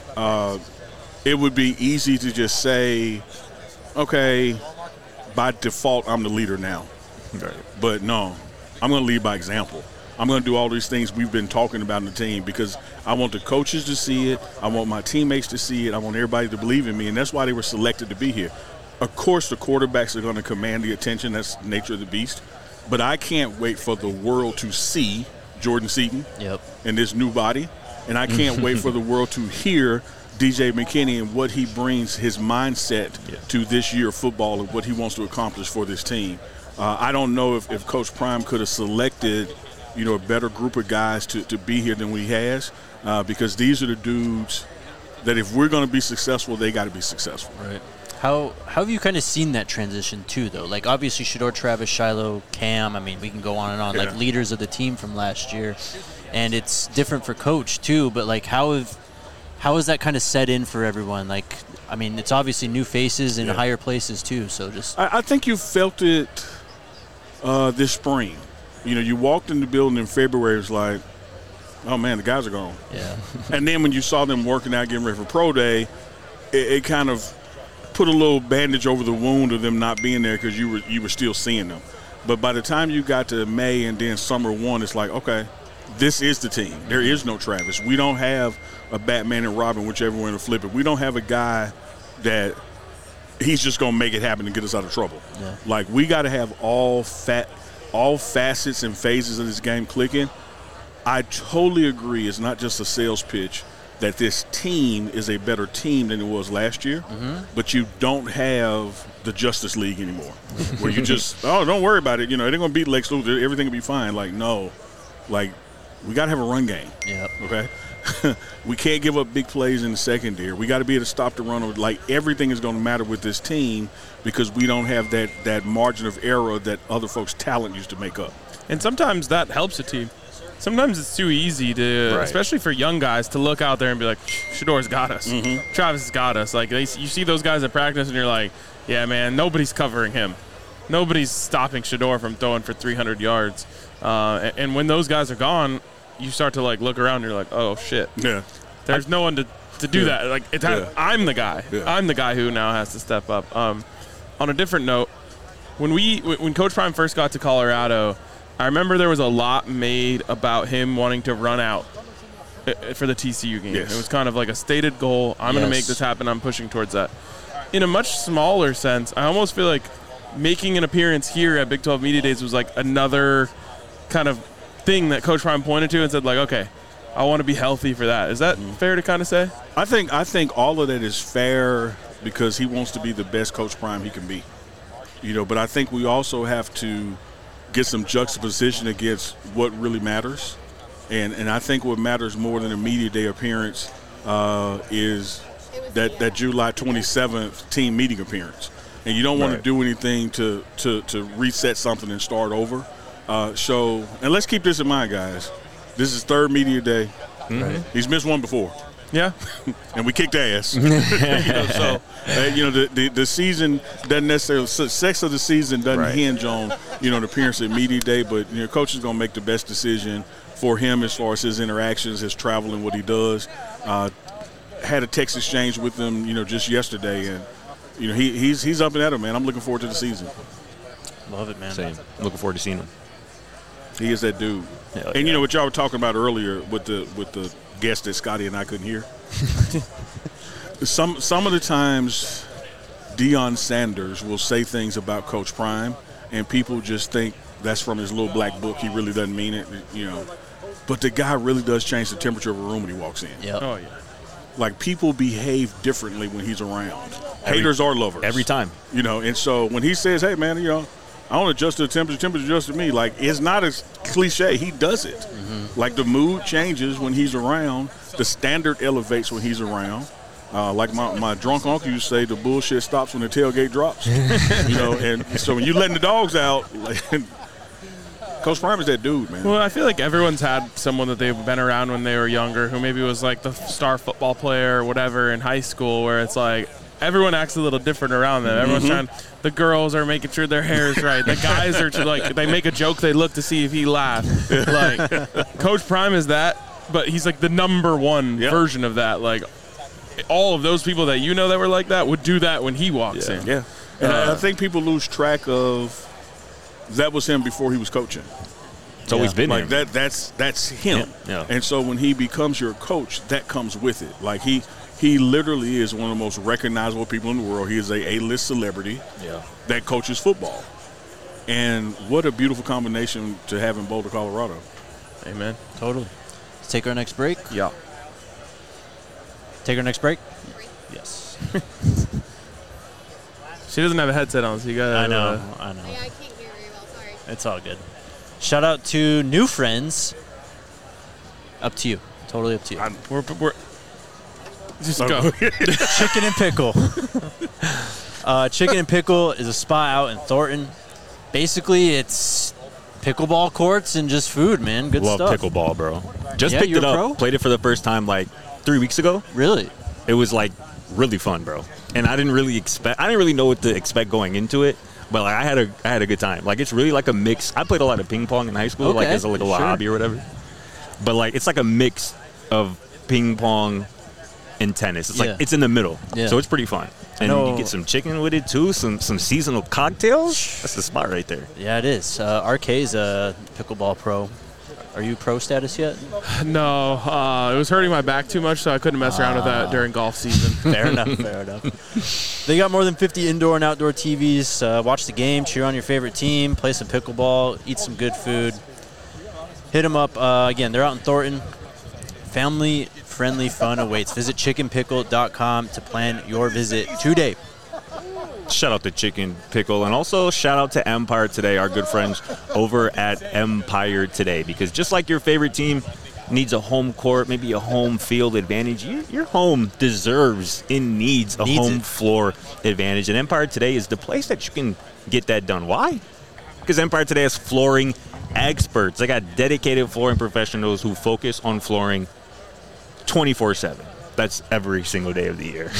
[SPEAKER 5] It would be easy to just say, okay, by default, I'm the leader now.
[SPEAKER 3] Right.
[SPEAKER 5] But no, I'm going to lead by example. I'm going to do all these things we've been talking about in the team because I want the coaches to see it. I want my teammates to see it. I want everybody to believe in me, and that's why they were selected to be here. Of course, the quarterbacks are going to command the attention. That's the nature of the beast. But I can't wait for the world to see Jordan Seaton in this new body, and I can't wait for the world to hear DJ McKinney and what he brings, his mindset to this year of football and what he wants to accomplish for this team. I don't know if Coach Prime could have selected, a better group of guys to be here than he has, because these are the dudes that if we're going to be successful, they got to be successful.
[SPEAKER 1] Right. How have you kind of seen that transition too, though? Like obviously Shedeur, Travis, Shiloh, Cam. I mean, we can go on and on, like leaders of the team from last year, and it's different for Coach too. But like, how has that kind of set in for everyone? Like, I mean, it's obviously new faces in higher places too. So just
[SPEAKER 5] I think you felt it this spring. You walked in the building in February. It was like, oh man, the guys are gone.
[SPEAKER 1] Yeah.
[SPEAKER 5] And then when you saw them working out, getting ready for pro day, it kind of put a little bandage over the wound of them not being there because you were still seeing them. But by the time you got to May and then summer one, it's like, okay, this is the team. There is no Travis. We don't have a Batman and Robin, whichever way to flip it. We don't have a guy that he's just going to make it happen and get us out of trouble.
[SPEAKER 1] Yeah.
[SPEAKER 5] Like, we got to have all facets and phases of this game clicking. I totally agree. It's not just a sales pitch that this team is a better team than it was last year, but you don't have the Justice League anymore where you just, don't worry about it. They're going to beat Lex Luthor. Everything will be fine. Like, no. Like, we got to have a run game.
[SPEAKER 1] Yep.
[SPEAKER 5] Okay? We can't give up big plays in the secondary. We got to be able to stop the run. Like, everything is going to matter with this team because we don't have that margin of error that other folks' talent used to make up.
[SPEAKER 2] And sometimes that helps a team. Sometimes it's too easy to, especially for young guys, to look out there and be like, Shedeur's got us. Travis has got us. Like, you see those guys at practice and you're like, yeah, man, nobody's covering him. Nobody's stopping Shedeur from throwing for 300 yards. And when those guys are gone, you start to, like, look around and you're like, oh, shit.
[SPEAKER 5] Yeah.
[SPEAKER 2] There's no one to do that. Like, I'm the guy. Yeah. I'm the guy who now has to step up. On a different note, when Coach Prime first got to Colorado, I remember there was a lot made about him wanting to run out for the TCU game.
[SPEAKER 5] Yes.
[SPEAKER 2] It was kind of like a stated goal. I'm going to make this happen. I'm pushing towards that. In a much smaller sense, I almost feel like making an appearance here at Big 12 Media Days was like another kind of thing that Coach Prime pointed to and said, like, okay, I want to be healthy for that. Is that fair to kind of say?
[SPEAKER 5] I think all of that is fair because he wants to be the best Coach Prime he can be. But I think we also have to get some juxtaposition against what really matters. And I think what matters more than a media day appearance is that July 27th team meeting appearance. And you don't want to do anything to reset something and start over. And let's keep this in mind, guys. This is third media day. He's missed one before.
[SPEAKER 2] Yeah.
[SPEAKER 5] And we kicked ass. The season doesn't necessarily – success of the season doesn't hinge on, the appearance at media day, but, coach is going to make the best decision for him as far as his interactions, his travel, and what he does. Had a text exchange with him, just yesterday, and, he's up and at him, man. I'm looking forward to the season.
[SPEAKER 1] Love it, man.
[SPEAKER 3] Same. Looking forward to seeing him.
[SPEAKER 5] He is that dude.
[SPEAKER 3] Hell
[SPEAKER 5] and
[SPEAKER 3] yeah.
[SPEAKER 5] what y'all were talking about earlier with the guest that Scotty and I couldn't hear. Some of the times Deion Sanders will say things about Coach Prime, and people just think that's from his little black book. He really doesn't mean it, But the guy really does change the temperature of a room when he walks in.
[SPEAKER 1] Yep.
[SPEAKER 2] Oh, yeah.
[SPEAKER 5] Like, people behave differently when he's around. Haters or lovers.
[SPEAKER 3] Every time.
[SPEAKER 5] And so when he says, hey, man, I don't adjust to the temperature adjusts to me. Like, it's not as cliche. He does it. Mm-hmm. Like, the mood changes when he's around. The standard elevates when he's around. Like my drunk uncle used to say, the bullshit stops when the tailgate drops. And so when you're letting the dogs out, Coach Prime is that dude, man.
[SPEAKER 2] Well, I feel like everyone's had someone that they've been around when they were younger who maybe was like the star football player or whatever in high school, where it's like everyone acts a little different around them. Everyone's trying. The girls are making sure their hair is right. The guys are like, they make a joke, they look to see if he laughs. Like, Coach Prime is that, but he's like the number one version of that. Like, all of those people that that were like that would do that when he walks in.
[SPEAKER 5] Yeah. And I think people lose track of that was him before he was coaching.
[SPEAKER 3] It's always been
[SPEAKER 5] like
[SPEAKER 3] him.
[SPEAKER 5] that's him.
[SPEAKER 3] Yeah.
[SPEAKER 5] And so when he becomes your coach, that comes with it. Like, he literally is one of the most recognizable people in the world. He is a A-list celebrity that coaches football. And what a beautiful combination to have in Boulder, Colorado.
[SPEAKER 2] Amen.
[SPEAKER 1] Totally. Let's take our next break.
[SPEAKER 2] Yeah.
[SPEAKER 1] Take our next break? Yes.
[SPEAKER 2] She doesn't have a headset on, so you got to.
[SPEAKER 1] I know.
[SPEAKER 6] Yeah, I can't hear very well, sorry.
[SPEAKER 1] It's all good. Shout out to new friends. Up to you. Totally up to you.
[SPEAKER 2] We're just go.
[SPEAKER 1] Chicken and Pickle. Chicken and Pickle is a spot out in Thornton. Basically, it's pickleball courts and just food, man. Good
[SPEAKER 3] Love
[SPEAKER 1] stuff.
[SPEAKER 3] pickleball, bro. Just
[SPEAKER 1] Yeah,
[SPEAKER 3] picked it
[SPEAKER 1] you're a
[SPEAKER 3] up.
[SPEAKER 1] pro?
[SPEAKER 3] Played it for the first time like 3 weeks ago.
[SPEAKER 1] Really?
[SPEAKER 3] It was like really fun, bro. And I didn't really know what to expect going into it. But like, I had a good time. Like, it's really like a mix. I played a lot of ping pong in high school, like as a little hobby or whatever. But like, it's like a mix of ping pong and tennis. It's like it's in the middle, so it's pretty fun. And you get some chicken with it too, some seasonal cocktails. That's the spot right there.
[SPEAKER 1] Yeah, it is. RK's a pickleball pro. Are you pro status yet?
[SPEAKER 2] No, it was hurting my back too much, so I couldn't mess around with that during golf season.
[SPEAKER 1] Fair enough, fair enough. They got more than 50 indoor and outdoor TVs. Watch the game, cheer on your favorite team, play some pickleball, eat some good food. Hit them up. Again, they're out in Thornton. Family-friendly fun awaits. Visit chickenpickle.com to plan your visit today.
[SPEAKER 3] Shout out to Chicken Pickle, and also shout out to Empire Today, our good friends over at Empire Today, because just like your favorite team needs a home court, maybe a home field advantage, your home deserves and needs a home floor advantage, and Empire Today is the place that you can get that done. Why? Because Empire Today has flooring experts. They got dedicated flooring professionals who focus on flooring 24/7. That's every single day of the year.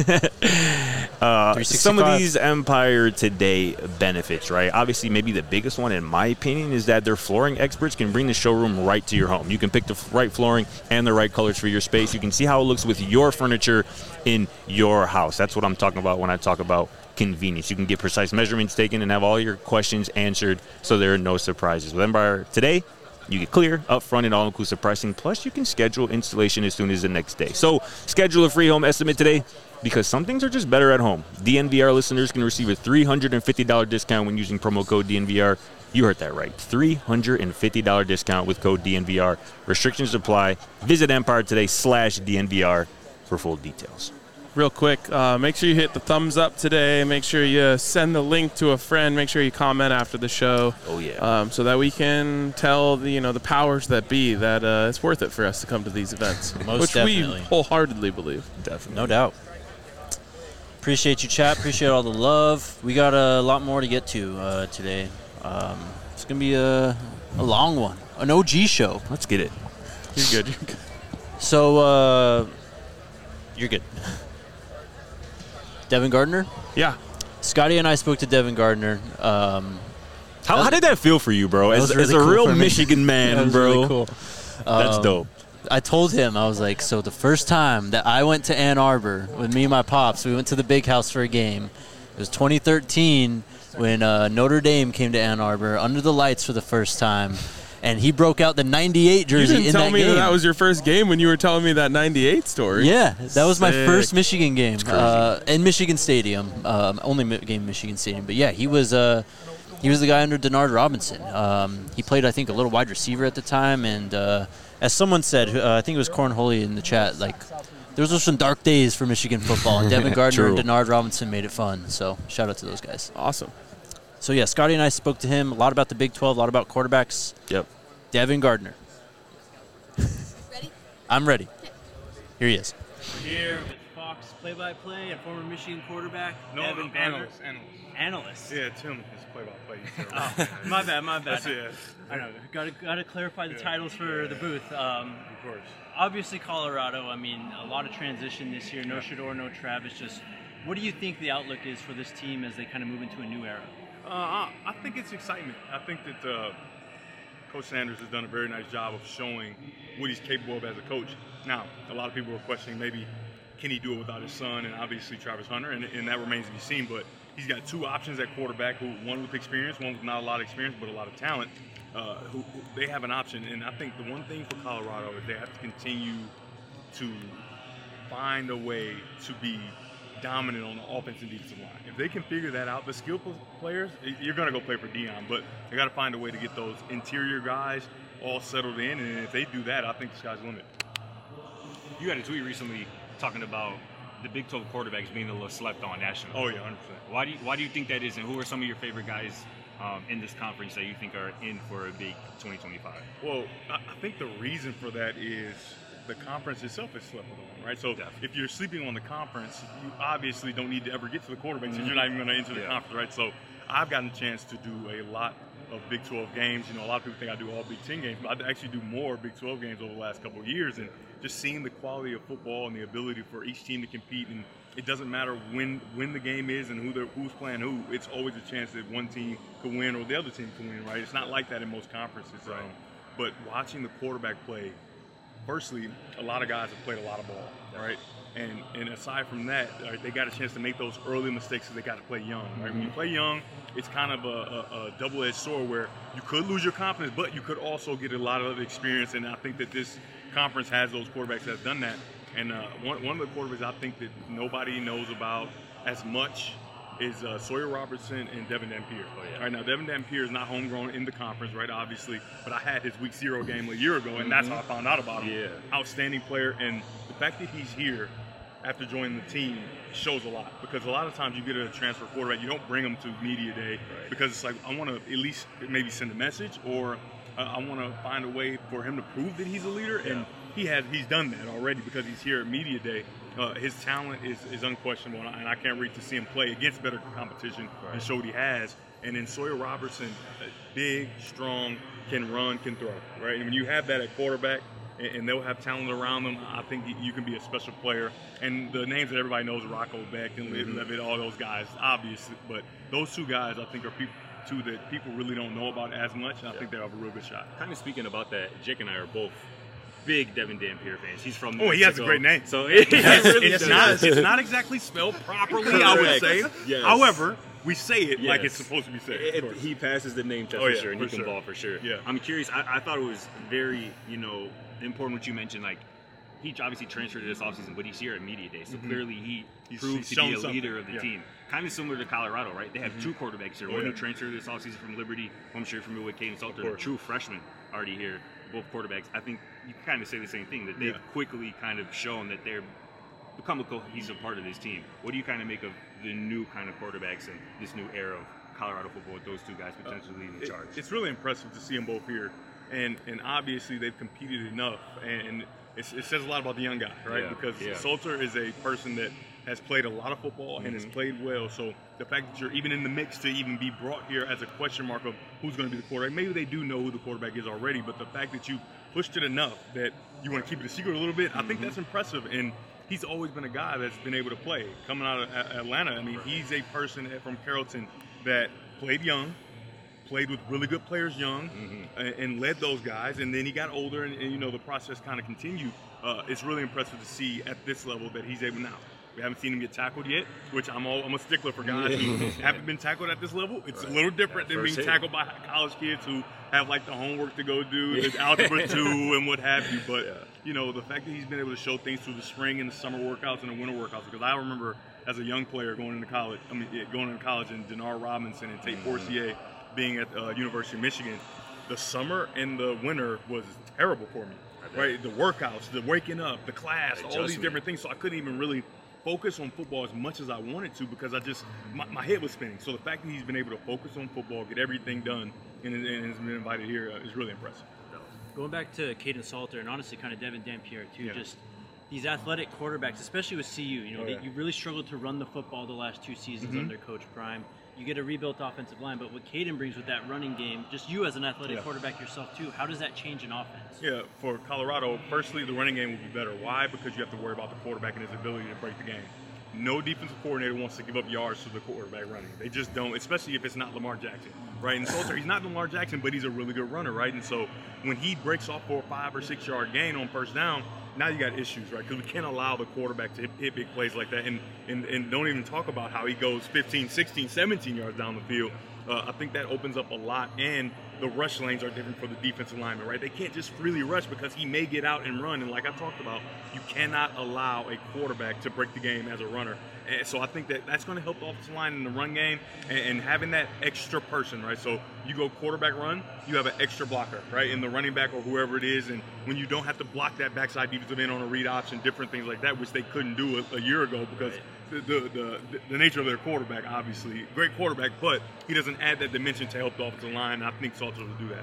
[SPEAKER 3] Some of these Empire Today benefits, right? Obviously, maybe the biggest one, in my opinion, is that their flooring experts can bring the showroom right to your home. You can pick the right flooring and the right colors for your space. You can see how it looks with your furniture in your house. That's what I'm talking about when I talk about convenience. You can get precise measurements taken and have all your questions answered, so there are no surprises. With Empire Today, you get clear, upfront, and all-inclusive pricing. Plus, you can schedule installation as soon as the next day. So, schedule a free home estimate today, because some things are just better at home. DNVR listeners can receive a $350 discount when using promo code DNVR. You heard that right. $350 discount with code DNVR. Restrictions apply. Visit EmpireToday/DNVR for full details.
[SPEAKER 2] Real quick, make sure you hit the thumbs up today. Make sure you send the link to a friend. Make sure you comment after the show.
[SPEAKER 3] Oh, yeah.
[SPEAKER 2] So that we can tell the powers that be that it's worth it for us to come to these events.
[SPEAKER 1] Most
[SPEAKER 2] which we
[SPEAKER 1] definitely.
[SPEAKER 2] wholeheartedly believe.
[SPEAKER 3] Definitely.
[SPEAKER 1] No doubt. Appreciate you, chat. Appreciate all the love. We got a lot more to get to today. It's going to be a long one, an OG show.
[SPEAKER 3] Let's get it.
[SPEAKER 2] You're good.
[SPEAKER 1] So You're good. Devin Gardner?
[SPEAKER 2] Yeah.
[SPEAKER 1] Scotty and I spoke to Devin Gardner.
[SPEAKER 3] How did that feel for you, bro? As
[SPEAKER 1] really
[SPEAKER 3] a
[SPEAKER 1] cool
[SPEAKER 3] real
[SPEAKER 1] for me.
[SPEAKER 3] Michigan man,
[SPEAKER 1] That was
[SPEAKER 3] bro.
[SPEAKER 1] really cool.
[SPEAKER 3] That's dope.
[SPEAKER 1] I told him, I was like, so the first time that I went to Ann Arbor with me and my pops, we went to the Big House for a game. It was 2013 when Notre Dame came to Ann Arbor under the lights for the first time, and he broke out the 98 jersey in that game.
[SPEAKER 2] You didn't tell me that was your first game when you were telling me that 98 story.
[SPEAKER 1] Yeah, that was my
[SPEAKER 2] Sick.
[SPEAKER 1] first Michigan game in Michigan Stadium. Only game in Michigan Stadium. But, yeah, he was the guy under Denard Robinson. He played, I think, a little wide receiver at the time, and as someone said, I think it was Cornhole in the chat, like, those were some dark days for Michigan football, and Devin Gardner and Denard Robinson made it fun. So shout out to those guys.
[SPEAKER 2] Awesome.
[SPEAKER 1] So, yeah, Scotty and I spoke to him a lot about the Big 12, a lot about quarterbacks.
[SPEAKER 3] Yep.
[SPEAKER 1] Devin Gardner.
[SPEAKER 6] Ready?
[SPEAKER 1] I'm ready. Here he is.
[SPEAKER 7] Here with Fox play-by-play and former Michigan quarterback, Devin Gardner. Analyst.
[SPEAKER 5] Yeah, Tim is play-by-play.
[SPEAKER 7] Oh, my bad.
[SPEAKER 5] That's it.
[SPEAKER 7] I know. Got to clarify the titles for the booth.
[SPEAKER 5] Of course.
[SPEAKER 7] Obviously, Colorado. I mean, a lot of transition this year. No Shedeur, no Travis. Just what do you think the outlook is for this team as they kind of move into a new era?
[SPEAKER 8] I think it's excitement. I think that Coach Sanders has done a very nice job of showing what he's capable of as a coach. Now, a lot of people are questioning maybe can he do it without his son and obviously Travis Hunter, and that remains to be seen. But he's got two options at quarterback, one with experience, one with not a lot of experience but a lot of talent. Who they have an option, and I think the one thing for Colorado is they have to continue to find a way to be dominant on the offensive and defensive line. If they can figure that out, the skillful players, you're going to go play for Deion, but they got to find a way to get those interior guys all settled in, and if they do that, I think the sky's the limit.
[SPEAKER 9] You had a tweet recently talking about the Big 12 quarterbacks being a little slept on nationally.
[SPEAKER 8] Oh, yeah, 100%.
[SPEAKER 9] Why do you think that is, and who are some of your favorite guys in this conference that you think are in for a big 2025?
[SPEAKER 8] Well, I think the reason for that is the conference itself is slept on, right? So if you're sleeping on the conference, you obviously don't need to ever get to the quarterback since you're not even going to enter the conference, right? So I've gotten a chance to do a lot of Big 12 games. You know, a lot of people think I do all Big 10 games, but I actually do more Big 12 games over the last couple of years, and just seeing the quality of football and the ability for each team to compete, and it doesn't matter when the game is and who's playing who. It's always a chance that one team could win or the other team could win, right? It's not like that in most conferences. Right. But watching the quarterback play, firstly, a lot of guys have played a lot of ball, right? And aside from that, they got a chance to make those early mistakes because they got to play young, right? When you play young, it's kind of a double-edged sword where you could lose your confidence, but you could also get a lot of experience, and I think that this conference has those quarterbacks that have done that. And one of the quarterbacks I think that nobody knows about as much is Sawyer Robertson and Devin Dampier. Oh, yeah. Right now, Devin Dampier is not homegrown in the conference, right, obviously, but I had his Week 0 game a year ago, and that's how I found out about him. Yeah. Outstanding player, and the fact that he's here after joining the team shows a lot, because a lot of times you get a transfer quarterback, you don't bring them to media day because it's like, I want to at least maybe send a message, or I want to find a way for him to prove that he's a leader, and he's done that already because he's here at media day. His talent is unquestionable, and I can't wait to see him play against better competition and show what he has. And then Sawyer Robertson, big, strong, can run, can throw, right? And when you have that at quarterback, and they'll have talent around them, I think you can be a special player. And the names that everybody knows, Rocco Beck and Levitt, all those guys, obviously. But those two guys, I think, are two that people really don't know about as much, and I think they have a real good shot.
[SPEAKER 9] Kind of speaking about that, Jake and I are both big Devin Dampier fans. He's from
[SPEAKER 8] he has a great name.
[SPEAKER 9] So
[SPEAKER 8] it's not exactly spelled properly, I would say.
[SPEAKER 9] Yes.
[SPEAKER 8] However, we say it like it's supposed to be said.
[SPEAKER 9] He passes the name test for sure, and he can ball for sure.
[SPEAKER 8] Yeah.
[SPEAKER 9] I'm curious. I thought it was very, important what you mentioned. Like, he obviously transferred this offseason, but he's here at media day, so clearly he proves to be a leader of the team. Kind of similar to Colorado, right? They have two quarterbacks here. One who transferred this offseason from Liberty, I'm sure familiar with Caden Salter, a true freshman already here. Both quarterbacks. I think you can kind of say the same thing, that they've quickly kind of shown that they're become a cohesive part of this team. What do you kind of make of the new kind of quarterbacks and this new era of Colorado football with those two guys potentially leading the charge?
[SPEAKER 8] It's really impressive to see them both here, and obviously they've competed enough, and it says a lot about the young guy, right? Because Salter is a person that has played a lot of football and has played well. So the fact that you're even in the mix to even be brought here as a question mark of who's going to be the quarterback, maybe they do know who the quarterback is already, but the fact that you pushed it enough that you want to keep it a secret a little bit, I think that's impressive. And he's always been a guy that's been able to play. Coming out of Atlanta, I mean, he's a person from Carrollton that played young, played with really good players young, and led those guys. And then he got older, and you know, the process kind of continued. It's really impressive to see at this level that he's able now. We haven't seen him get tackled yet, which I'm a stickler for guys who haven't been tackled at this level. It's a little different than being tackled by college kids who have like the homework to go do, the algebra 2 and what have you. But you know, the fact that he's been able to show things through the spring and the summer workouts and the winter workouts, because I remember as a young player going into college and Denard Robinson and Tate Forcier being at University of Michigan, the summer and the winter was terrible for me. Right, the workouts, the waking up, the class, all these different things. So I couldn't even really focus on football as much as I wanted to because my head was spinning. So the fact that he's been able to focus on football, get everything done, and has been invited here is really impressive.
[SPEAKER 7] Going back to Kaidon Salter and honestly kind of Devin Dampier too, just these athletic quarterbacks, especially with CU, you know, you really struggled to run the football the last 2 seasons under Coach Prime. You get a rebuilt offensive line, but what Kaidon brings with that running game, just you as an athletic quarterback yourself too, how does that change an offense? Yeah,
[SPEAKER 8] for Colorado, firstly, the running game will be better. Why? Because you have to worry about the quarterback and his ability to break the game. No defensive coordinator wants to give up yards to the quarterback running. They just don't, especially if it's not Lamar Jackson, right? And Salter, he's not Lamar Jackson, but he's a really good runner, right? And so when he breaks off for a 5 or 6 yard gain on first down, now you got issues, right? Because we can't allow the quarterback to hit big plays like that. And don't even talk about how he goes 15, 16, 17 yards down the field. I think that opens up a lot. And the rush lanes are different for the defensive lineman, right? They can't just freely rush because he may get out and run. And like I talked about, you cannot allow a quarterback to break the game as a runner. And so I think that's going to help the offensive line in the run game and having that extra person, right? So you go quarterback run, you have an extra blocker, right? In the running back or whoever it is. And when you don't have to block that backside defensive end on a read option, different things like that, which they couldn't do a year ago because the nature of their quarterback, obviously. Great quarterback, but he doesn't add that dimension to help the offensive line. I think Salter will do that.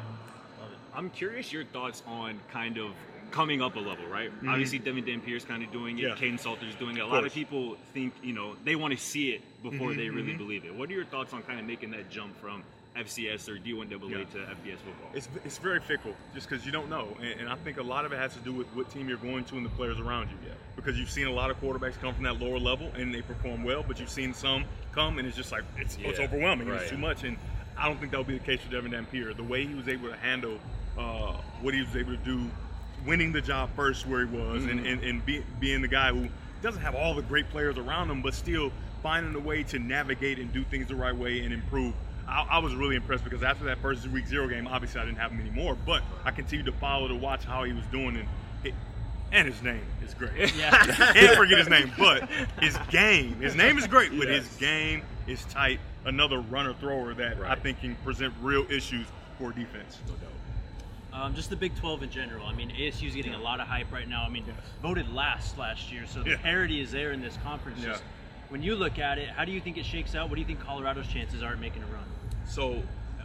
[SPEAKER 9] I'm curious your thoughts on kind of coming up a level, right? Obviously, Devin Dampier's kind of doing it. Kaidon Salter's doing it. A lot of people think, you know, they want to see it before they really believe it. What are your thoughts on kind of making that jump from FCS or D1AA to FBS football?
[SPEAKER 8] It's very fickle just because you don't know. And I think a lot of it has to do with what team you're going to and the players around you. Because you've seen a lot of quarterbacks come from that lower level and they perform well, but you've seen some come and it's just like, it's overwhelming. It's too much. And I don't think that will be the case for Devin Dampier. The way he was able to handle what he was able to do, winning the job first where he was and being the guy who doesn't have all the great players around him, but still finding a way to navigate and do things the right way and improve. I was really impressed because after that first week 0 game, obviously I didn't have him anymore, but I continued to follow to watch how he was doing. And his name is great. Can't forget his name, but his name is great, but his game is tight. Another runner-thrower that I think can present real issues for defense. No doubt.
[SPEAKER 7] Just the Big 12 in general. I mean, ASU's getting a lot of hype right now. I mean, voted last year, so the parity is there in this conference. Just, when you look at it, how do you think it shakes out? What do you think Colorado's chances are at making a run?
[SPEAKER 8] So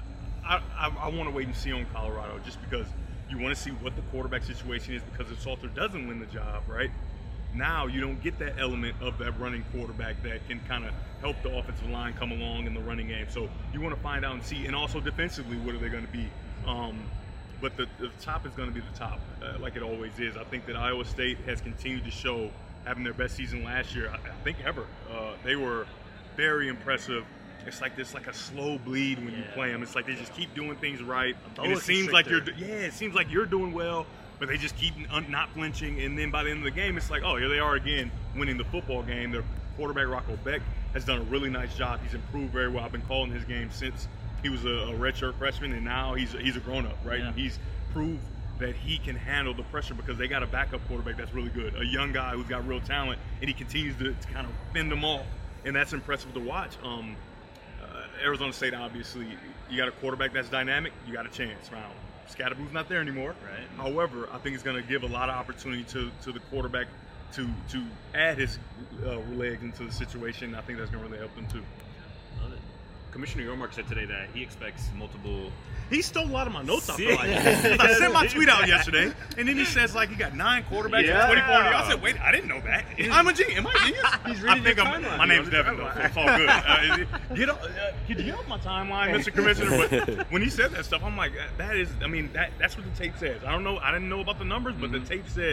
[SPEAKER 8] I want to wait and see on Colorado just because you want to see what the quarterback situation is, because if Salter doesn't win the job, right, now you don't get that element of that running quarterback that can kind of help the offensive line come along in the running game. So you want to find out and see, and also defensively, what are they going to be? But the top is going to be the top, like it always is. I think that Iowa State has continued to show, having their best season last year, I think ever. They were very impressive. It's like a slow bleed when you play them. It's like they just keep doing things right, and it seems like you're doing well, but they just keep not flinching. And then by the end of the game, it's like, oh, here they are again, winning the football game. Their quarterback Rocco Beck has done a really nice job. He's improved very well. I've been calling his game since he was a redshirt freshman, and now he's a grown-up, right? And he's proved that he can handle the pressure because they got a backup quarterback that's really good, a young guy who's got real talent, and he continues to kind of fend them off, and that's impressive to watch. Arizona State, obviously, you got a quarterback that's dynamic, you got a chance. Now, Scatterboo's not there anymore. Right. However, I think it's going to give a lot of opportunity to the quarterback to add his legs into the situation. I think that's going to really help them too.
[SPEAKER 9] Love it. Commissioner Yormark said today that he expects multiple.
[SPEAKER 8] He stole a lot of my notes, I feel like. I sent my tweet out yesterday, and then he says, like, he got 9 quarterbacks and 24. I said, wait, I didn't know that. I'm a genius. Am I a genius?
[SPEAKER 7] He's reading the timeline.
[SPEAKER 8] My name's Devin, though, so it's all good. Could you get off my timeline, Mr. Commissioner? But when he said that stuff, I'm like, that's what the tape says. I didn't know about the numbers, but the tape says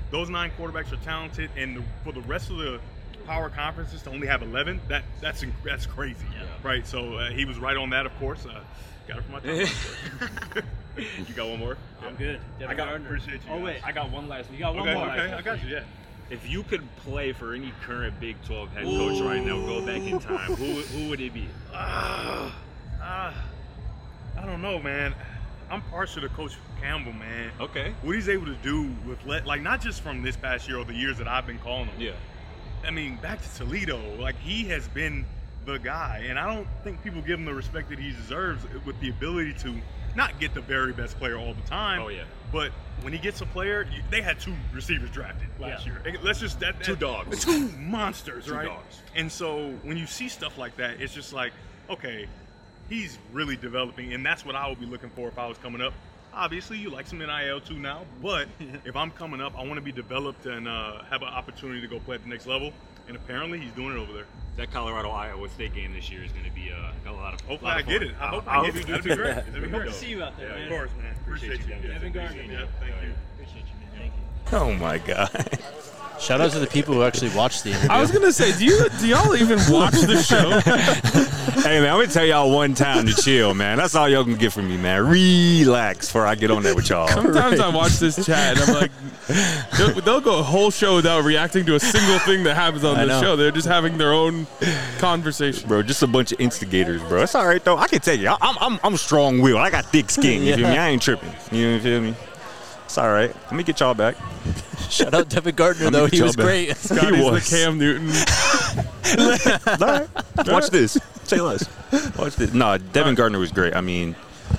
[SPEAKER 8] those 9 quarterbacks are talented, and for the rest of the power conferences to only have 11, that's crazy, right? So he was right on that, of course. Got it from my time. You got one more?
[SPEAKER 7] I'm good.
[SPEAKER 8] Appreciate you.
[SPEAKER 9] Oh, wait. I got one last one. You got one more.
[SPEAKER 8] Okay, I got you, yeah.
[SPEAKER 9] If you could play for any current Big 12 head coach right now, go back in time, who would it be?
[SPEAKER 8] I don't know, man. I'm partial to Coach Campbell, man.
[SPEAKER 9] Okay.
[SPEAKER 8] What he's able to do with, not just from this past year or the years that I've been calling him.
[SPEAKER 9] Yeah.
[SPEAKER 8] I mean, back to Toledo, he has been the guy, and I don't think people give him the respect that he deserves with the ability to not get the very best player all the time.
[SPEAKER 9] Oh, yeah.
[SPEAKER 8] But when he gets a player, they had 2 receivers drafted last year. Let's just
[SPEAKER 9] 2 dogs,
[SPEAKER 8] 2 monsters,
[SPEAKER 9] 2
[SPEAKER 8] right?
[SPEAKER 9] dogs.
[SPEAKER 8] And so when you see stuff like that, it's just like, okay, he's really developing, and that's what I would be looking for if I was coming up. Obviously, you like some NIL too now, but if I'm coming up, I want to be developed and have an opportunity to go play at the next level. And apparently, he's doing it over there.
[SPEAKER 9] That Colorado-Iowa State game this year is going to be got a lot of
[SPEAKER 8] Hopefully, I get it. I hope I get it. That'd be great. That'd be
[SPEAKER 7] Hope
[SPEAKER 8] great.
[SPEAKER 7] to see you out there, man.
[SPEAKER 8] Of course, man. Appreciate you.
[SPEAKER 7] Devin Gardner.
[SPEAKER 8] Yeah, thank you.
[SPEAKER 7] Appreciate you, man. Thank you.
[SPEAKER 3] Oh my God.
[SPEAKER 1] Shout out to the people who actually watched the interview.
[SPEAKER 2] I was gonna say, do y'all even watch the show?
[SPEAKER 3] Hey man, I'm gonna tell y'all one time to chill, man. That's all y'all can get from me, man. Relax before I get on there with y'all.
[SPEAKER 2] Sometimes I watch this chat and I'm like, they'll go a whole show without reacting to a single thing that happens on the show. They're just having their own conversation,
[SPEAKER 3] bro. Just a bunch of instigators, bro. It's all right though. I can tell you, I'm strong-willed. I got thick skin. You feel me? I ain't tripping. You feel me? It's all right. Let me get y'all back.
[SPEAKER 1] Shout out Devin Gardner, though. He was great.
[SPEAKER 2] Scotty's the Cam Newton.
[SPEAKER 3] All right. Watch this. Say less. Watch this. No, Devin Gardner was great. I mean,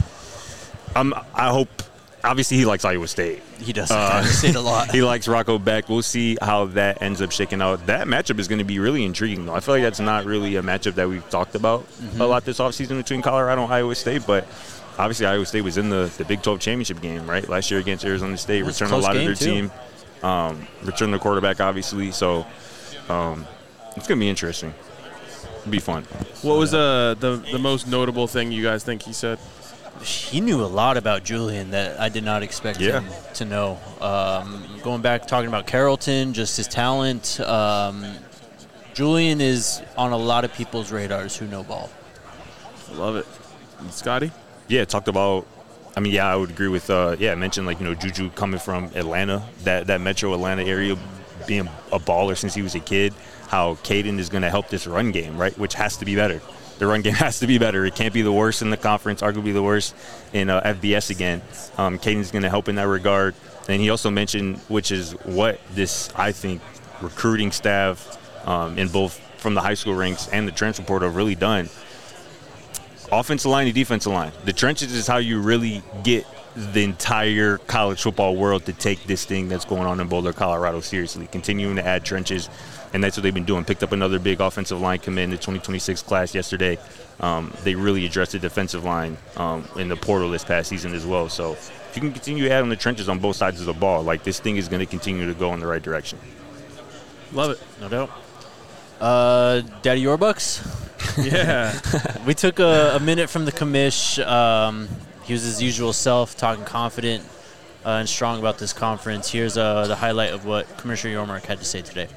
[SPEAKER 3] I hope. Obviously, he likes Iowa State.
[SPEAKER 1] He does. Iowa State a lot.
[SPEAKER 3] He likes Rocco Beck. We'll see how that ends up shaking out. That matchup is going to be really intriguing, though. I feel like that's not really a matchup that we've talked about a lot this offseason between Colorado and Iowa State, but obviously Iowa State was in the Big 12 championship game, right, last year against Arizona State, returned a lot of their team, returned the quarterback, obviously. So it's going to be interesting. It'll be fun.
[SPEAKER 2] What was the most notable thing you guys think he said?
[SPEAKER 1] He knew a lot about Julian that I did not expect him to know. Going back, talking about Carrollton, just his talent. Julian is on a lot of people's radars who know ball.
[SPEAKER 2] Love it. And Scotty?
[SPEAKER 3] Yeah, talked about. I mean, I would agree with. I mentioned Juju coming from Atlanta, that Metro Atlanta area, being a baller since he was a kid. How Caden is going to help this run game, right? Which has to be better. The run game has to be better. It can't be the worst in the conference, arguably the worst in FBS again. Caden's going to help in that regard. And he also mentioned, which is what this, I think, recruiting staff in both from the high school ranks and the transfer portal have really done. Offensive line and defensive line. The trenches is how you really get the entire college football world to take this thing that's going on in Boulder, Colorado seriously. Continuing to add trenches, and that's what they've been doing. Picked up another big offensive line commit in the 2026 class yesterday. They really addressed the defensive line in the portal this past season as well. So if you can continue to add on the trenches on both sides of the ball, this thing is going to continue to go in the right direction.
[SPEAKER 2] Love it.
[SPEAKER 1] No doubt. Daddy Yorbucks?
[SPEAKER 2] Yeah.
[SPEAKER 1] We took a minute from the commish. He was his usual self, talking confident and strong about this conference. Here's the highlight of what Commissioner Yormark had to say today.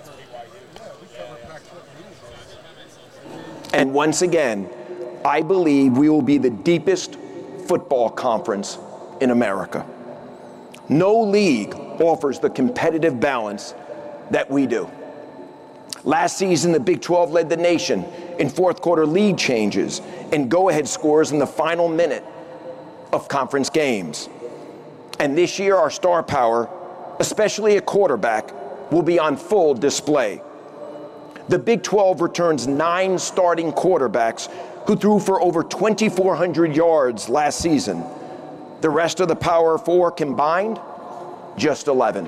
[SPEAKER 10] And once again, I believe we will be the deepest football conference in America. No league offers the competitive balance that we do. Last season, the Big 12 led the nation in fourth quarter lead changes and go-ahead scores in the final minute of conference games. And this year, our star power, especially at quarterback, will be on full display. The Big 12 returns 9 starting quarterbacks who threw for over 2,400 yards last season. The rest of the Power 4 combined, just 11.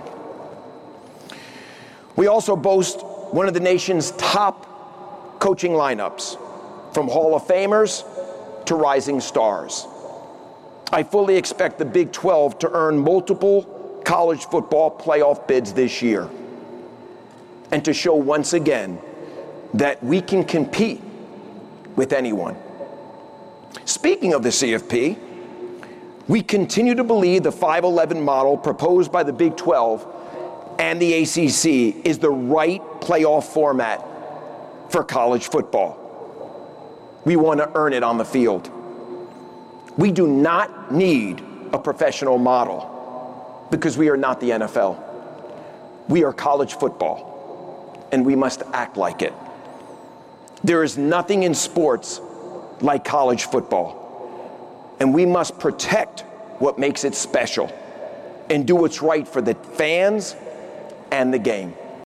[SPEAKER 10] We also boast one of the nation's top coaching lineups, from Hall of Famers to rising stars. I fully expect the Big 12 to earn multiple college football playoff bids this year, and to show once again that we can compete with anyone. Speaking of the CFP, we continue to believe the 5-11 model proposed by the Big 12 and the ACC is the right playoff format for college football. We want to earn it on the field. We do not need a professional model because we are not the NFL. We are college football, and we must act like it. There is nothing in sports like college football, and we must protect what makes it special and do what's right for the fans and the game.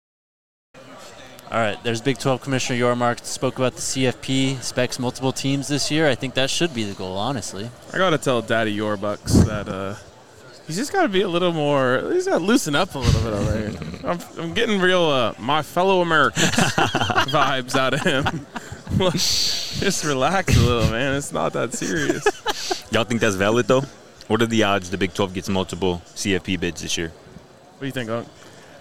[SPEAKER 1] All right, there's Big 12 Commissioner Yormark. Spoke about the CFP, specs multiple teams this year. I think that should be the goal, honestly.
[SPEAKER 2] I got to tell Daddy Yorbucks that he's just got to be a little more – he's got to loosen up a little bit over there. I'm getting real my fellow Americans vibes out of him. Just relax a little, man. It's not that serious.
[SPEAKER 3] Y'all think that's valid, though? What are the odds the Big 12 gets multiple CFP bids this year?
[SPEAKER 2] What do you think, Oak?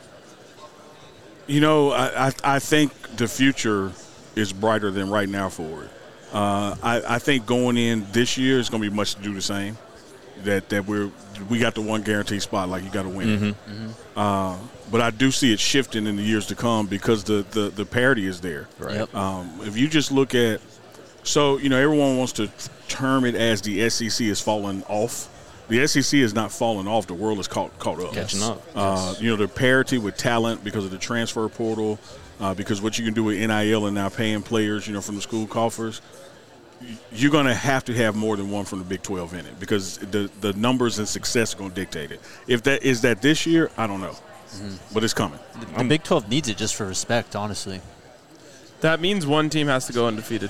[SPEAKER 5] You know, I think the future is brighter than right now for it. I think going in this year is going to be much to do the same. That we got the one guaranteed spot, like you got to win. But I do see it shifting in the years to come because the parity is there.
[SPEAKER 3] Right.
[SPEAKER 1] Yep.
[SPEAKER 5] If you just look at, so you know, everyone wants to term it as the SEC is falling off. The SEC is not falling off. The world is caught up.
[SPEAKER 3] Catching up.
[SPEAKER 5] You know, the parity with talent because of the transfer portal, because what you can do with NIL and now paying players, you know, from the school coffers, you're going to have more than one from the Big 12 in it because the numbers and success are going to dictate it. If that is that this year, I don't know. But it's coming.
[SPEAKER 1] The Big 12 needs it just for respect, honestly.
[SPEAKER 2] That means one team has to go undefeated,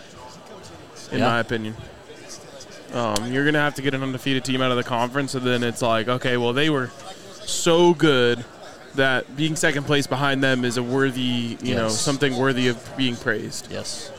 [SPEAKER 2] in my opinion. You're going to have to get an undefeated team out of the conference, and then it's like, okay, well, they were so good that being second place behind them is a worthy, you know, something worthy of being praised.
[SPEAKER 1] Yes.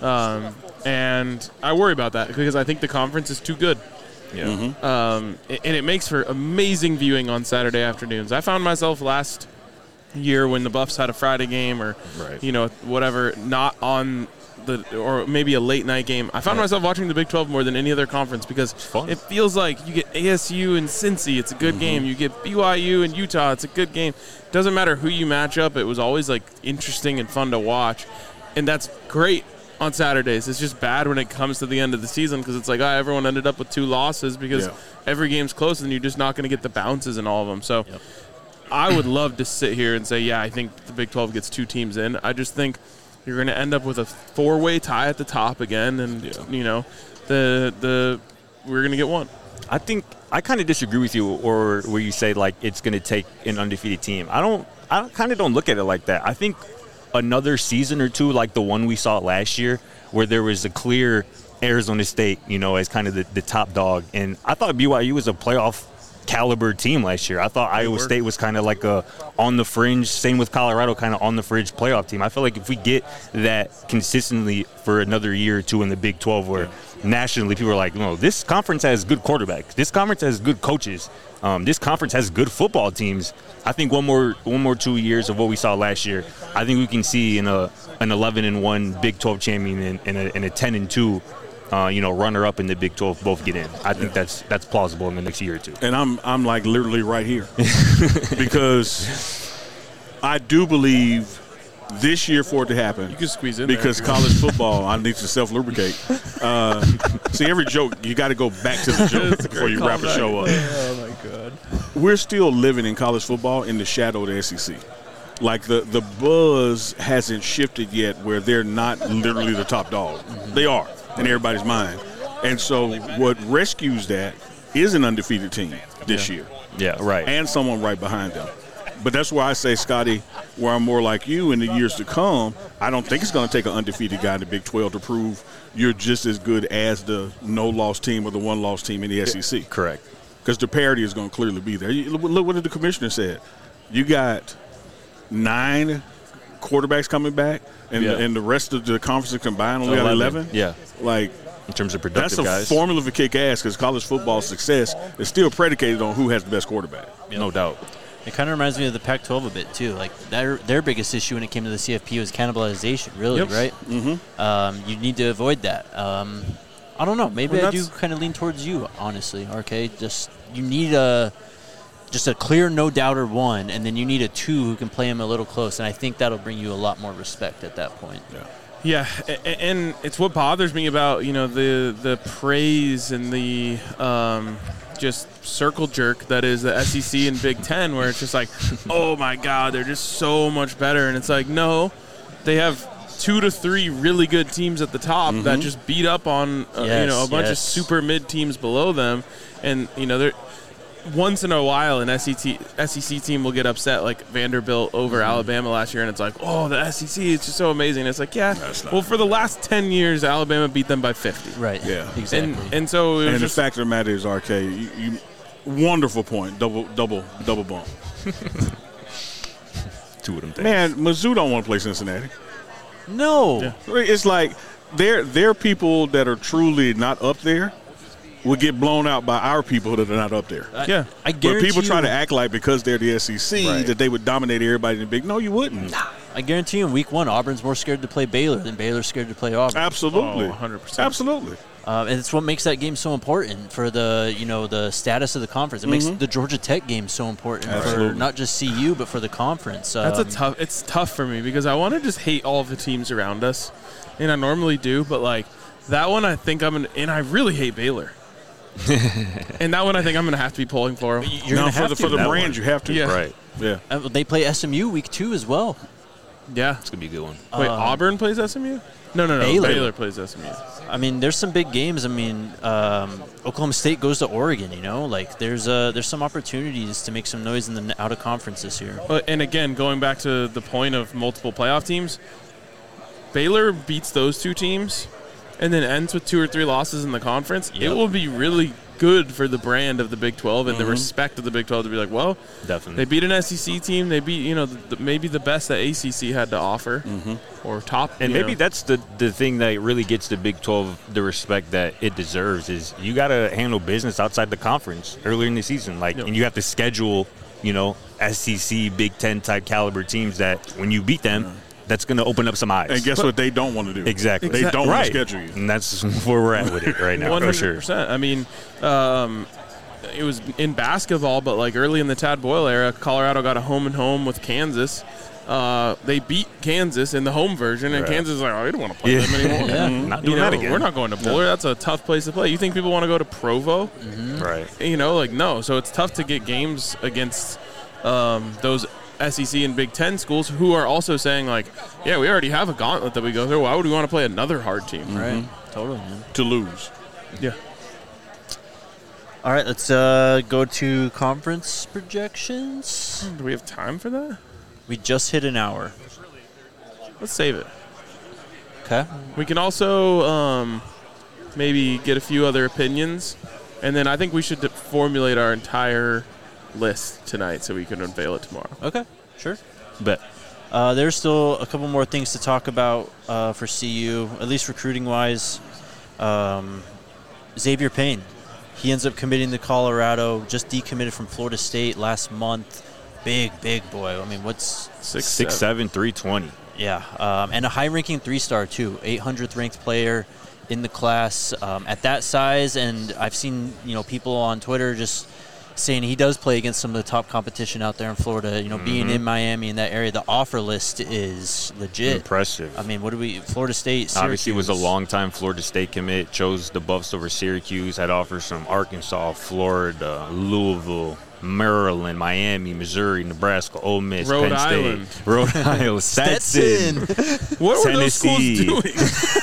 [SPEAKER 2] And I worry about that because I think the conference is too good.
[SPEAKER 3] Yeah.
[SPEAKER 2] And it makes for amazing viewing on Saturday afternoons. I found myself last year when the Buffs had a Friday game or, you know, whatever, not on or maybe a late night game. I found myself watching the Big 12 more than any other conference because it feels like you get ASU and Cincy, it's a good game. You get BYU and Utah, it's a good game. Doesn't matter who you match up, it was always like interesting and fun to watch. And that's great on Saturdays. It's just bad when it comes to the end of the season because it's like, everyone ended up with 2 losses because every game's close and you're just not going to get the bounces in all of them. So I would love to sit here and say, I think the Big 12 gets 2 teams in. I just think you're going to end up with a 4-way tie at the top again, and you know, we're going to get one.
[SPEAKER 3] I think I kind of disagree with you, or where you say like it's going to take an undefeated team. I kind of don't look at it like that. I think another season or two, like the one we saw last year, where there was a clear Arizona State, you know, as kind of the top dog, and I thought BYU was a playoff caliber team last year. I thought Iowa State was kind of like a on the fringe, same with Colorado, kind of on the fringe playoff team. I feel like if we get that consistently for another year or two in the Big 12 where nationally people are like, no, this conference has good quarterbacks, this conference has good coaches, this conference has good football teams. I think one more 2 years of what we saw last year, I think we can see in an 11-1 Big 12 champion and a 10-2 runner-up in the Big 12 both get in. I think that's plausible in the next year or two.
[SPEAKER 5] And I'm like literally right here because I do believe this year for it to happen.
[SPEAKER 2] You can squeeze in
[SPEAKER 5] because
[SPEAKER 2] there.
[SPEAKER 5] College football, I need to self-lubricate. See, every joke, you got to go back to the joke before you wrap the show up.
[SPEAKER 2] Oh, my God.
[SPEAKER 5] We're still living in college football in the shadow of the SEC. Like the buzz hasn't shifted yet where they're not literally the top dog. They are in everybody's mind. And so what rescues that is an undefeated team this year.
[SPEAKER 3] Yeah, right.
[SPEAKER 5] And someone right behind them. But that's why I say, Scotty, where I'm more like you in the years to come, I don't think it's going to take an undefeated guy in the Big 12 to prove you're just as good as the no-loss team or the one-loss team in the SEC.
[SPEAKER 3] Correct.
[SPEAKER 5] Because the parity is going to clearly be there. Look what the commissioner said. You got 9 quarterbacks coming back, and the rest of the conference combined only got 11.
[SPEAKER 3] Yeah.
[SPEAKER 5] Like,
[SPEAKER 3] in terms of productive
[SPEAKER 5] guys.
[SPEAKER 3] That's
[SPEAKER 5] a formula for kick ass because college football success is still predicated on who has the best quarterback.
[SPEAKER 3] No doubt.
[SPEAKER 1] It kind of reminds me of the Pac-12 a bit, too. Like, their biggest issue when it came to the CFP was cannibalization, really, right? Mm-hmm. You need to avoid that. I don't know. Maybe I do kind of lean towards you, honestly, RK. Just you need just a clear no-doubter one, and then you need a 2 who can play him a little close, and I think that'll bring you a lot more respect at that point.
[SPEAKER 2] Yeah, and it's what bothers me about, the praise and the just circle jerk that is the SEC and Big Ten, where it's just like, oh my God, they're just so much better. And it's like, no, they have 2 to 3 really good teams at the top that just beat up on a bunch of super mid teams below them, and they're once in a while an SEC team will get upset, like Vanderbilt over Alabama last year, and it's like, oh, the SEC is just so amazing. It's like, well, for the last 10 years, Alabama beat them by 50.
[SPEAKER 1] Right.
[SPEAKER 5] Yeah.
[SPEAKER 1] Exactly.
[SPEAKER 2] And so
[SPEAKER 5] the fact of the matter is, RK, you wonderful point, double bump.
[SPEAKER 3] 2 of them things.
[SPEAKER 5] Man, Mizzou don't want to play Cincinnati.
[SPEAKER 1] No.
[SPEAKER 5] Yeah. It's like they're people that are truly not up there will get blown out by our people that are not up there.
[SPEAKER 1] I guarantee.
[SPEAKER 5] But people try to act like because they're the SEC that they would dominate everybody in the big. No, you wouldn't.
[SPEAKER 1] I guarantee you in week 1, Auburn's more scared to play Baylor than Baylor's scared to play Auburn.
[SPEAKER 5] Absolutely.
[SPEAKER 2] 100%.
[SPEAKER 5] Absolutely.
[SPEAKER 1] And it's what makes that game so important for the status of the conference. It makes the Georgia Tech game so important for not just CU but for the conference.
[SPEAKER 2] It's tough for me because I want to just hate all of the teams around us, and I normally do, but like that one I think and I really hate Baylor. And that one I think I'm going to have to be pulling for.
[SPEAKER 5] For the brand you have to.
[SPEAKER 2] Yeah.
[SPEAKER 3] Right.
[SPEAKER 5] Yeah.
[SPEAKER 1] They play SMU week 2 as well.
[SPEAKER 2] Yeah.
[SPEAKER 3] It's going to be a good one.
[SPEAKER 2] Wait, Auburn plays SMU? No. Baylor plays SMU.
[SPEAKER 1] I mean, there's some big games. I mean, Oklahoma State goes to Oregon, Like, there's some opportunities to make some noise in the out-of-conference this year.
[SPEAKER 2] And again, going back to the point of multiple playoff teams, Baylor beats those 2 teams and then ends with 2 or 3 losses in the conference. It will be really good for the brand of the Big 12 and the respect of the Big 12 to be like, well,
[SPEAKER 3] definitely,
[SPEAKER 2] they beat an SEC team. They beat, maybe the best that ACC had to offer or top.
[SPEAKER 3] And maybe that's the thing that really gets the Big 12 the respect that it deserves is you got to handle business outside the conference earlier in the season. And you have to schedule, SEC, Big 10 type caliber teams that when you beat them, that's going to open up some eyes.
[SPEAKER 5] And guess what they don't want to do?
[SPEAKER 3] Exactly.
[SPEAKER 5] They don't want to schedule you.
[SPEAKER 3] And that's where we're at with it right now,
[SPEAKER 2] 100%.
[SPEAKER 3] for sure.
[SPEAKER 2] I mean, it was in basketball, but like early in the Tad Boyle era, Colorado got a home-and-home with Kansas. They beat Kansas in the home version, and Kansas is like, oh, we don't want to play them anymore.
[SPEAKER 3] Not doing that again.
[SPEAKER 2] We're not going to Boulder. That's a tough place to play. You think people want to go to Provo?
[SPEAKER 3] Right.
[SPEAKER 2] No. So it's tough to get games against those SEC and Big Ten schools who are also saying, like, yeah, we already have a gauntlet that we go through. Why would we want to play another hard team?
[SPEAKER 1] Right. Totally, man.
[SPEAKER 5] To lose.
[SPEAKER 2] Yeah.
[SPEAKER 1] All right, let's go to conference projections.
[SPEAKER 2] Do we have time for that?
[SPEAKER 1] We just hit an hour.
[SPEAKER 2] Let's save it.
[SPEAKER 1] Okay.
[SPEAKER 2] We can also maybe get a few other opinions, and then I think we should formulate our entire list tonight so we can unveil it tomorrow.
[SPEAKER 1] Okay, sure.
[SPEAKER 3] Bet.
[SPEAKER 1] There's still a couple more things to talk about for CU, at least recruiting-wise. Xavier Payne. He ends up committing to Colorado, just decommitted from Florida State last month. Big boy. I mean, what's
[SPEAKER 3] 6'7", 320.
[SPEAKER 1] Yeah, and a high-ranking 3-star, too. 800th ranked player in the class at that size. And I've seen, people on Twitter just saying he does play against some of the top competition out there in Florida. Being in Miami in that area, the offer list is legit.
[SPEAKER 3] Impressive.
[SPEAKER 1] I mean, Florida State, Syracuse.
[SPEAKER 3] Obviously was a long-time Florida State commit, chose the Buffs over Syracuse, had offers from Arkansas, Florida, Louisville, Maryland, Miami, Missouri, Nebraska, Ole Miss,
[SPEAKER 2] Penn
[SPEAKER 3] State, Rhode Island, Stetson.
[SPEAKER 2] What were those schools doing?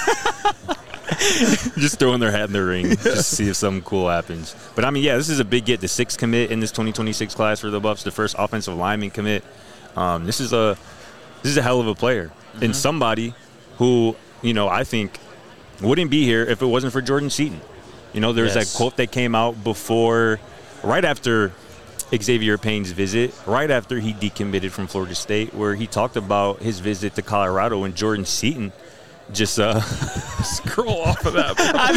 [SPEAKER 3] Just throwing their hat in the ring just to see if something cool happens. But, I mean, this is a big get. The 6th commit in this 2026 class for the Buffs, the first offensive lineman commit. This is a hell of a player. And somebody who, I think wouldn't be here if it wasn't for Jordan Seaton. There's that quote that came out right after Xavier Payne's visit, right after he decommitted from Florida State, where he talked about his visit to Colorado and Jordan Seaton just
[SPEAKER 2] scroll off of that.
[SPEAKER 3] I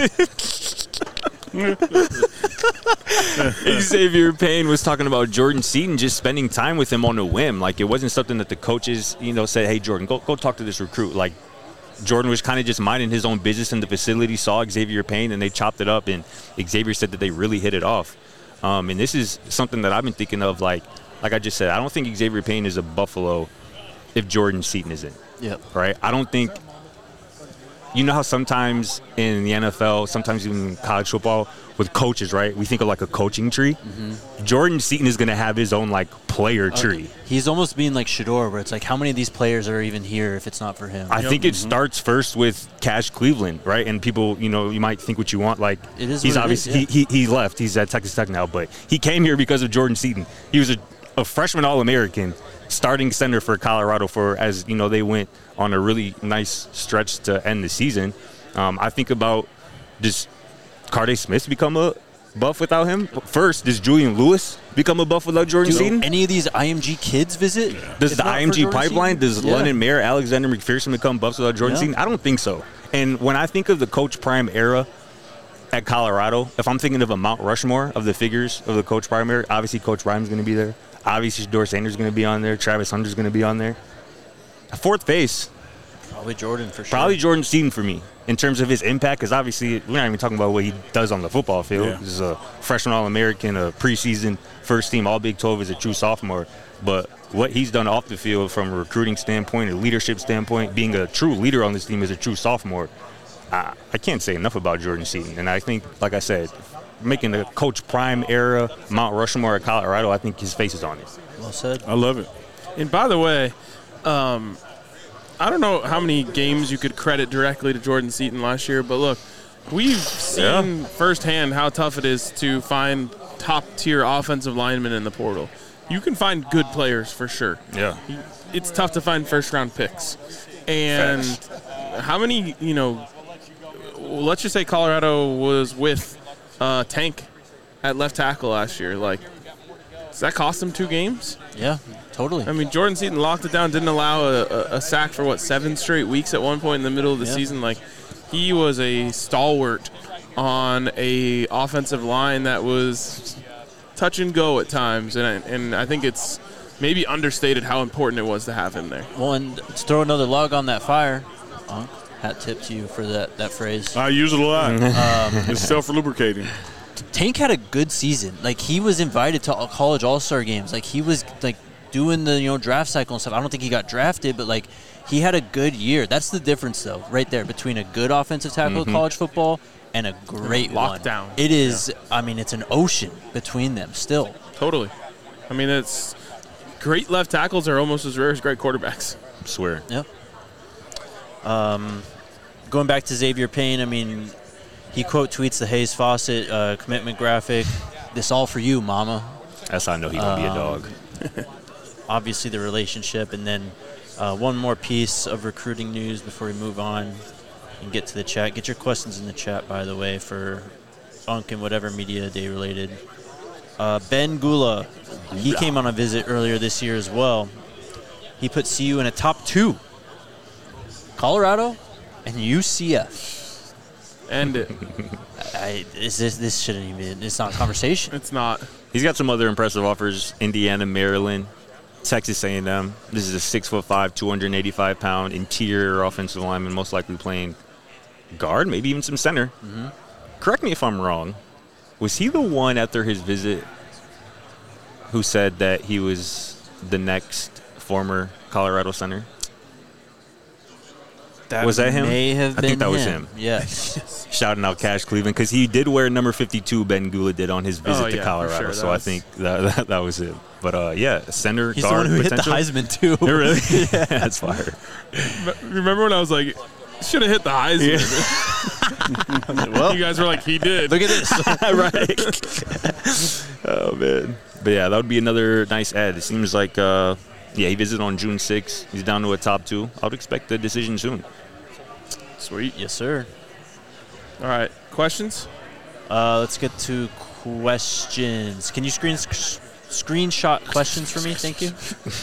[SPEAKER 3] didn't even. Xavier Payne was talking about Jordan Seaton just spending time with him on a whim. Like, it wasn't something that the coaches, said, hey, Jordan, go talk to this recruit. Like, Jordan was kind of just minding his own business in the facility, saw Xavier Payne, and they chopped it up. And Xavier said that they really hit it off. And this is something that I've been thinking of, like I just said, I don't think Xavier Payne is a Buffalo if Jordan Seaton isn't.
[SPEAKER 1] Yep.
[SPEAKER 3] Right? I don't think – you know how sometimes in the NFL, sometimes even in college football, with coaches, right, we think of like a coaching tree. Mm-hmm. Jordan Seaton is going to have his own like player tree.
[SPEAKER 1] He's almost being like Shedeur, where it's like, how many of these players are even here if it's not for him?
[SPEAKER 3] I think it starts first with Cash Cleveland, right? And people, you know, you might think what you want. Like,
[SPEAKER 1] it is
[SPEAKER 3] he's obviously he left. He's at Texas Tech now, but he came here because of Jordan Seaton. He was a freshman All-American, starting center for Colorado as you know, they went on a really nice stretch to end the season. I think about, does Carday Smith become a buff without him? First, does Julian Lewis become a buff without Jordan Seaton?
[SPEAKER 1] Any of these IMG kids visit?
[SPEAKER 3] Does the IMG pipeline, does London Mayer, Alexander McPherson become buffs without Jordan Seaton? I don't think so. And when I think of the Coach Prime era at Colorado, if I'm thinking of a Mount Rushmore of the figures of the Coach Prime era, obviously Coach Prime's going to be there. Obviously, Shedeur Sanders is going to be on there. Travis Hunter's going to be on there. Fourth base.
[SPEAKER 1] Probably Jordan for sure.
[SPEAKER 3] Probably Jordan Seaton for me in terms of his impact, because obviously we're not even talking about what he does on the football field. Yeah. He's a freshman All-American, a preseason first-team All-Big 12 as a true sophomore. But what he's done off the field from a recruiting standpoint, a leadership standpoint, being a true leader on this team as a true sophomore, I can't say enough about Jordan Seaton. And I think, like I said, making the Coach Prime era Mount Rushmore at Colorado, I think his face is on it.
[SPEAKER 1] Well said.
[SPEAKER 5] I love it.
[SPEAKER 2] And by the way, I don't know how many games you could credit directly to Jordan Seaton last year, but look, we've seen firsthand how tough it is to find top-tier offensive linemen in the portal. You can find good players for sure.
[SPEAKER 3] Yeah.
[SPEAKER 2] It's tough to find first-round picks. And how many, you know, let's just say Colorado was with Tank at left tackle last year. Like, does that cost them 2 games?
[SPEAKER 1] Yeah, totally.
[SPEAKER 2] I mean, Jordan Seaton locked it down, didn't allow a sack for, 7 straight weeks at one point in the middle of the season. Like, he was a stalwart on a offensive line that was touch and go at times. And I think it's maybe understated how important it was to have him there.
[SPEAKER 1] Well, and to throw another log on that fire, hat tip to you for that phrase.
[SPEAKER 5] I use it a lot. It's self-lubricating.
[SPEAKER 1] Tank had a good season. Like, he was invited to college all-star games. Like, he was like doing the draft cycle and stuff. I don't think he got drafted, but like, he had a good year. That's the difference, though, right there between a good offensive tackle in college football and a great
[SPEAKER 2] lockdown.
[SPEAKER 1] It is. I mean, it's an ocean between them still.
[SPEAKER 2] Totally. I mean, it's great left tackles are almost as rare as great quarterbacks.
[SPEAKER 3] I swear.
[SPEAKER 1] Yep. Going back to Xavier Payne, I mean, he quote tweets the Hayes Fawcett commitment graphic. This all for you, mama.
[SPEAKER 3] That's how I know he's going to be a dog.
[SPEAKER 1] Obviously the relationship, and then one more piece of recruiting news before we move on and get to the chat. Get your questions in the chat, by the way, for Funk and whatever media day related. Ben Gula, he came on a visit earlier this year as well. He put CU in a top 2. Colorado and UCF.
[SPEAKER 2] End it.
[SPEAKER 1] This shouldn't even. It's not a conversation.
[SPEAKER 2] It's not.
[SPEAKER 3] He's got some other impressive offers: Indiana, Maryland, Texas A&M. This is a 6'5", 285-pound interior offensive lineman, most likely playing guard, maybe even some center. Mm-hmm. Correct me if I'm wrong. Was he the one after his visit who said that he was the next former Colorado center? Was that him?
[SPEAKER 1] May have been
[SPEAKER 3] I think that was him.
[SPEAKER 1] Yes.
[SPEAKER 3] Shouting out Cash Cleveland, because he did wear number 52, Ben Gula did, on his visit to Colorado.
[SPEAKER 2] Sure.
[SPEAKER 3] So I think that was it. But, center,
[SPEAKER 1] he's
[SPEAKER 3] guard,
[SPEAKER 1] the one who
[SPEAKER 3] potential.
[SPEAKER 1] hit the Heisman, too.
[SPEAKER 3] Really? Yeah. That's fire.
[SPEAKER 2] Remember when I was like, should have hit the Heisman? Yeah. Well, you guys were like, he did.
[SPEAKER 1] Look at this.
[SPEAKER 3] Right. Oh, man. But, yeah, that would be another nice ad. It seems like, he visited on June 6th. He's down to a top 2. I would expect a decision soon.
[SPEAKER 2] Sweet.
[SPEAKER 1] Yes, sir.
[SPEAKER 2] All right. Questions?
[SPEAKER 1] Let's get to questions. Can you screenshot questions for me? Thank you.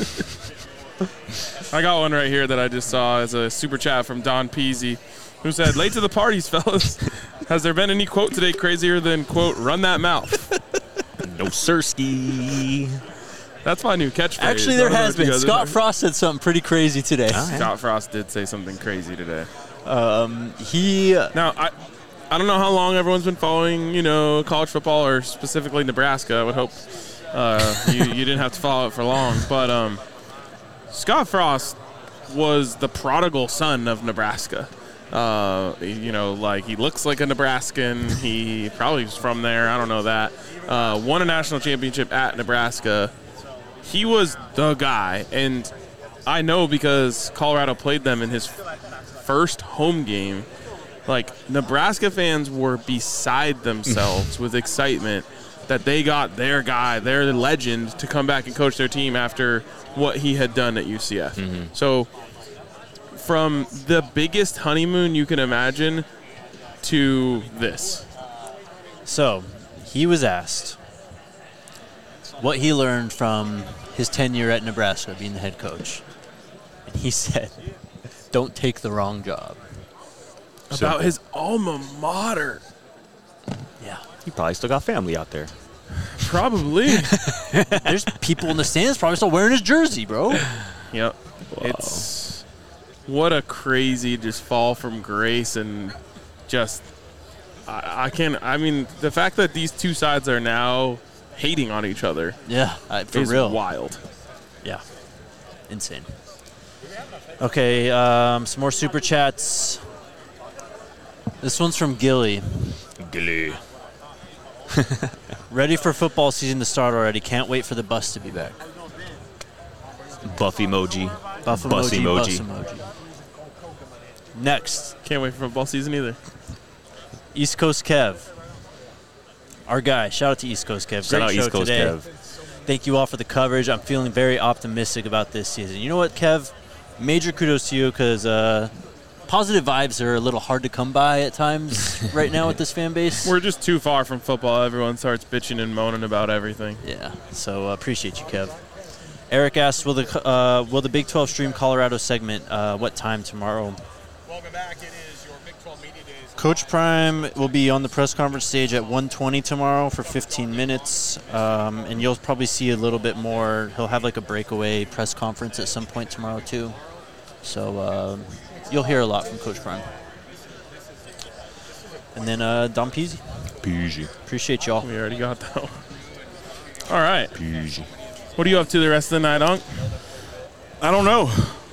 [SPEAKER 2] I got one right here that I just saw as a super chat from Don Peasy, who said, late to the parties, fellas. Has there been any quote today crazier than, quote, run that mouth?
[SPEAKER 3] No sirski.
[SPEAKER 2] That's my new catchphrase.
[SPEAKER 1] Actually, there has been. Scott Frost said something pretty crazy today.
[SPEAKER 2] Scott Frost did say something crazy today.
[SPEAKER 1] He
[SPEAKER 2] I don't know how long everyone's been following, college football or specifically Nebraska. I would hope you didn't have to follow it for long. But Scott Frost was the prodigal son of Nebraska. He looks like a Nebraskan. He probably was from there. I don't know that. Won a national championship at Nebraska. He was the guy. And I know because Colorado played them in his first home game. Like, Nebraska fans were beside themselves with excitement that they got their guy, their legend, to come back and coach their team after what he had done at UCF. Mm-hmm. So from the biggest honeymoon you can imagine to this.
[SPEAKER 1] So he was asked what he learned from his tenure at Nebraska being the head coach. And he said, don't take the wrong job.
[SPEAKER 2] About his alma mater.
[SPEAKER 1] Yeah.
[SPEAKER 3] He probably still got family out there.
[SPEAKER 2] Probably.
[SPEAKER 1] There's people in the stands probably still wearing his jersey, bro.
[SPEAKER 2] Yep. Wow. It's what a crazy just fall from grace and just the fact that these two sides are now hating on each other.
[SPEAKER 1] Yeah, for
[SPEAKER 2] is
[SPEAKER 1] real.
[SPEAKER 2] Wild.
[SPEAKER 1] Yeah. Insane. Okay, some more super chats. This one's from Gilly. Ready for football season to start already. Can't wait for the bus to be back.
[SPEAKER 3] Buff emoji.
[SPEAKER 1] Buff emoji. Bus emoji. Next.
[SPEAKER 2] Can't wait for football season either.
[SPEAKER 1] East Coast Kev. Our guy. Shout out to East Coast Kev.
[SPEAKER 3] Shout out
[SPEAKER 1] Great show
[SPEAKER 3] East Coast
[SPEAKER 1] today.
[SPEAKER 3] Kev.
[SPEAKER 1] Thank you all for the coverage. I'm feeling very optimistic about this season. You know what, Kev? Major kudos to you because positive vibes are a little hard to come by at times right now with this fan base.
[SPEAKER 2] We're just too far from football. Everyone starts bitching and moaning about everything.
[SPEAKER 1] Yeah, so appreciate you, Kev. Eric asks, will the Big 12 stream Colorado segment what time tomorrow?
[SPEAKER 11] Welcome back. It is your Big 12 Media Days.
[SPEAKER 1] Coach Prime will be on the press conference stage at 1:20 tomorrow for 15 minutes, and you'll probably see a little bit more. He'll have like a breakaway press conference at some point tomorrow too. So you'll hear a lot from Coach Prime. And then Dom Peasy. Appreciate y'all.
[SPEAKER 2] We already got that one. All right.
[SPEAKER 3] Peasy.
[SPEAKER 2] What are you up to the rest of the night, Unc?
[SPEAKER 5] I don't know.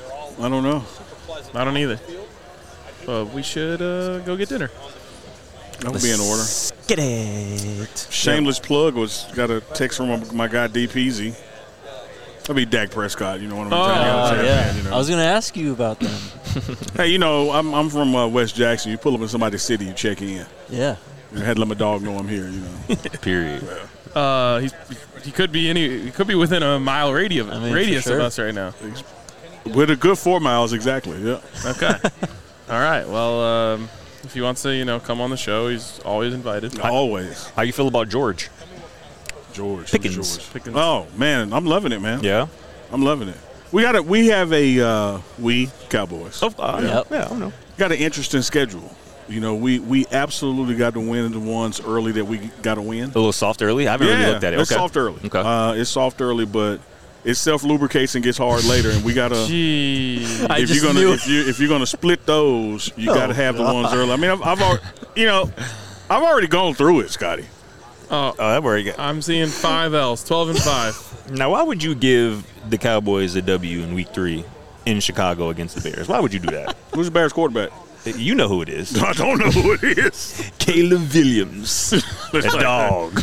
[SPEAKER 2] I don't either. But we should go get dinner.
[SPEAKER 5] That would be in order.
[SPEAKER 1] Get it.
[SPEAKER 5] Shameless plug got a text from my guy D Peasy. That'd be Dak Prescott, one of them.
[SPEAKER 1] Yeah. I was going to ask you about them.
[SPEAKER 5] Hey, I'm from West Jackson. You pull up in somebody's city, you check in.
[SPEAKER 1] Yeah.
[SPEAKER 5] I had to let my dog know I'm here,
[SPEAKER 3] Period.
[SPEAKER 5] Yeah.
[SPEAKER 2] He could be within a mile radius of us right now.
[SPEAKER 5] With a good 4 miles, exactly. Yeah.
[SPEAKER 2] Okay. All right. Well, if he wants to, come on the show, he's always invited.
[SPEAKER 5] Always.
[SPEAKER 3] How you feel about George?
[SPEAKER 5] Pickens. Oh man, I'm loving it, man.
[SPEAKER 3] Yeah,
[SPEAKER 5] I'm loving it. We have a Cowboys.
[SPEAKER 3] Yeah, I know.
[SPEAKER 5] Got an interesting schedule. We absolutely got to win the ones early that we got to win.
[SPEAKER 3] A little soft early. I haven't really looked at it.
[SPEAKER 5] It's soft early.
[SPEAKER 3] Okay.
[SPEAKER 5] It's soft early, but it self-lubricates and gets hard later, and we gotta. If you're gonna split those, you gotta have the ones early. I mean, I've already gone through it, Scotty.
[SPEAKER 2] Oh,
[SPEAKER 3] that where you get.
[SPEAKER 2] I'm seeing 5 L's, 12 and 5.
[SPEAKER 3] Now, why would you give the Cowboys a W in Week 3 in Chicago against the Bears? Why would you do that?
[SPEAKER 5] Who's the Bears quarterback?
[SPEAKER 3] You know who it is.
[SPEAKER 5] I don't know who it is.
[SPEAKER 3] Caleb Williams. A dog.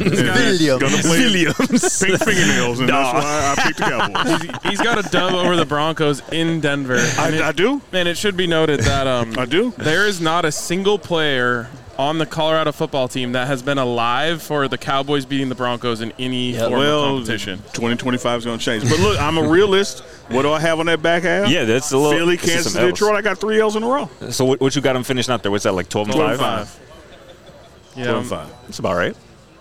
[SPEAKER 5] Williams. Pink fingernails, and that's why I picked the Cowboys.
[SPEAKER 2] He's got a dub over the Broncos in Denver.
[SPEAKER 5] I do?
[SPEAKER 2] And it should be noted that
[SPEAKER 5] I do.
[SPEAKER 2] There is not a single player on the Colorado football team that has been alive for the Cowboys beating the Broncos in any form of competition.
[SPEAKER 5] 2025 is going to change. But look, I'm a realist. What do I have on that back half?
[SPEAKER 3] Yeah, that's a little.
[SPEAKER 5] Philly, Kansas, Detroit. I got 3 L's in a row.
[SPEAKER 3] So what you got them finishing out there? What's that, like 12 and 5?
[SPEAKER 2] Yeah,
[SPEAKER 5] 12 and 5.
[SPEAKER 3] That's about right.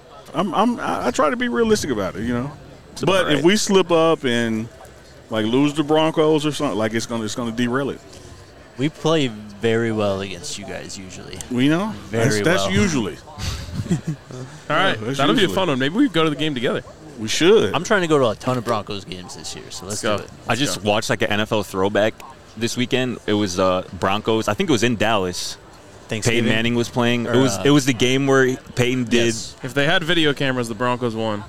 [SPEAKER 5] I try to be realistic about it, But if we slip up and lose the Broncos or something, it's gonna derail it.
[SPEAKER 1] We play very well against you guys usually.
[SPEAKER 5] We know. That's usually.
[SPEAKER 2] All right, that'll be a fun one. Maybe we go to the game together.
[SPEAKER 5] We should.
[SPEAKER 1] I'm trying to go to a ton of Broncos games this year, so let's do it.
[SPEAKER 3] I just watched an NFL throwback this weekend. It was Broncos. I think it was in Dallas. Peyton Manning was playing. It was the game where Peyton did.
[SPEAKER 2] Yes. If they had video cameras, the Broncos won.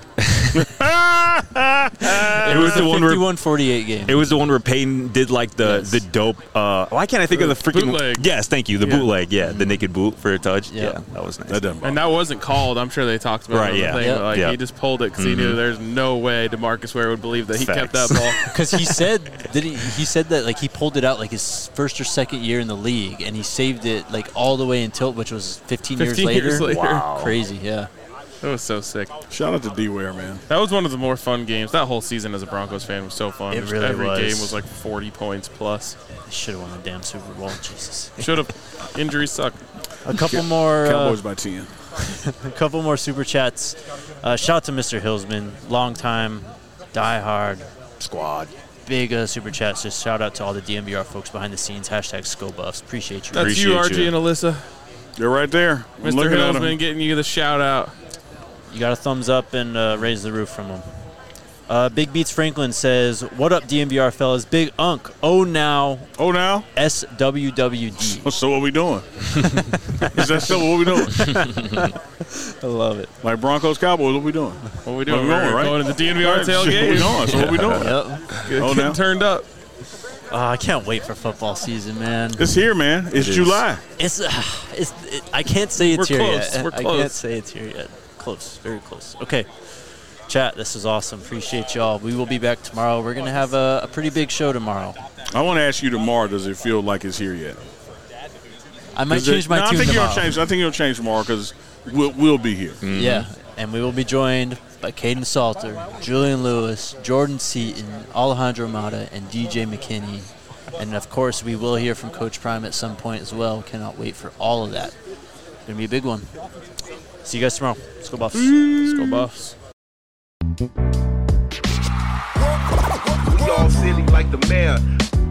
[SPEAKER 1] It was the 51-48 game.
[SPEAKER 3] It was the one where Peyton did like the dope. Why can't I think of the freaking
[SPEAKER 2] bootleg?
[SPEAKER 3] Yes, thank you. The bootleg. Yeah, the naked boot for a touch. Yeah, that was nice.
[SPEAKER 2] And that wasn't called. I'm sure they talked about it.
[SPEAKER 3] Right.
[SPEAKER 2] Thing, but he just pulled it because he knew there's no way DeMarcus Ware would believe that he kept that ball.
[SPEAKER 1] Because he said that like he pulled it out like his first or second year in the league, and he saved it like all the way until, which was 15 years later.
[SPEAKER 2] Wow,
[SPEAKER 1] crazy. Yeah.
[SPEAKER 2] That was so sick.
[SPEAKER 5] Shout out to D-Ware, man.
[SPEAKER 2] That was one of the more fun games. That whole season as a Broncos fan was so fun.
[SPEAKER 1] It really
[SPEAKER 2] Every
[SPEAKER 1] was.
[SPEAKER 2] game was like 40 points plus.
[SPEAKER 1] They should have won the damn Super Bowl. Jesus.
[SPEAKER 2] Should have. Injuries suck.
[SPEAKER 1] A couple more.
[SPEAKER 5] Cowboys by 10.
[SPEAKER 1] A couple more super chats. Shout out to Mr. Hillsman, long time, diehard
[SPEAKER 3] squad.
[SPEAKER 1] Big super chats. Just shout out to all the DNVR folks behind the scenes. #ScoBuffs. Appreciate you.
[SPEAKER 2] That's you, RG and Alyssa.
[SPEAKER 5] They're right there.
[SPEAKER 2] Mr. Hillsman getting you the shout out.
[SPEAKER 1] You got a thumbs up and raise the roof from him. Big Beats Franklin says, "What up, DNVR fellas? Big Unk. Oh now. SWWD.
[SPEAKER 5] So what we doing? Is that still what we doing?
[SPEAKER 1] I love it.
[SPEAKER 5] Like Broncos Cowboys, what we doing?
[SPEAKER 2] What we doing? We're going to the DNVR tailgate.
[SPEAKER 5] What we doing? So what we doing?
[SPEAKER 1] Yep.
[SPEAKER 2] Getting turned up.
[SPEAKER 1] I can't wait for football season, man.
[SPEAKER 5] It's here, man. It's July.
[SPEAKER 1] I can't say it's
[SPEAKER 2] We're
[SPEAKER 1] here
[SPEAKER 2] close.
[SPEAKER 1] yet.
[SPEAKER 2] We're
[SPEAKER 1] I
[SPEAKER 2] close.
[SPEAKER 1] can't say it's here yet. Close, very close. Okay, chat, this is awesome. Appreciate y'all. We will be back tomorrow. We're going to have a pretty big show tomorrow.
[SPEAKER 5] I want to ask you tomorrow, does it feel like it's here yet?
[SPEAKER 1] I might change my tune tomorrow.
[SPEAKER 5] I think you'll change tomorrow because we'll be here.
[SPEAKER 1] Mm-hmm. Yeah, and we will be joined by Caden Salter, Julian Lewis, Jordan Seaton, Alejandro Mata, and DJ McKinney. And, of course, we will hear from Coach Prime at some point as well. Cannot wait for all of that. It's going to be a big one. See you guys tomorrow. Let's go Buffs.
[SPEAKER 2] Let's go Buffs.
[SPEAKER 12] We all silly like the mayor.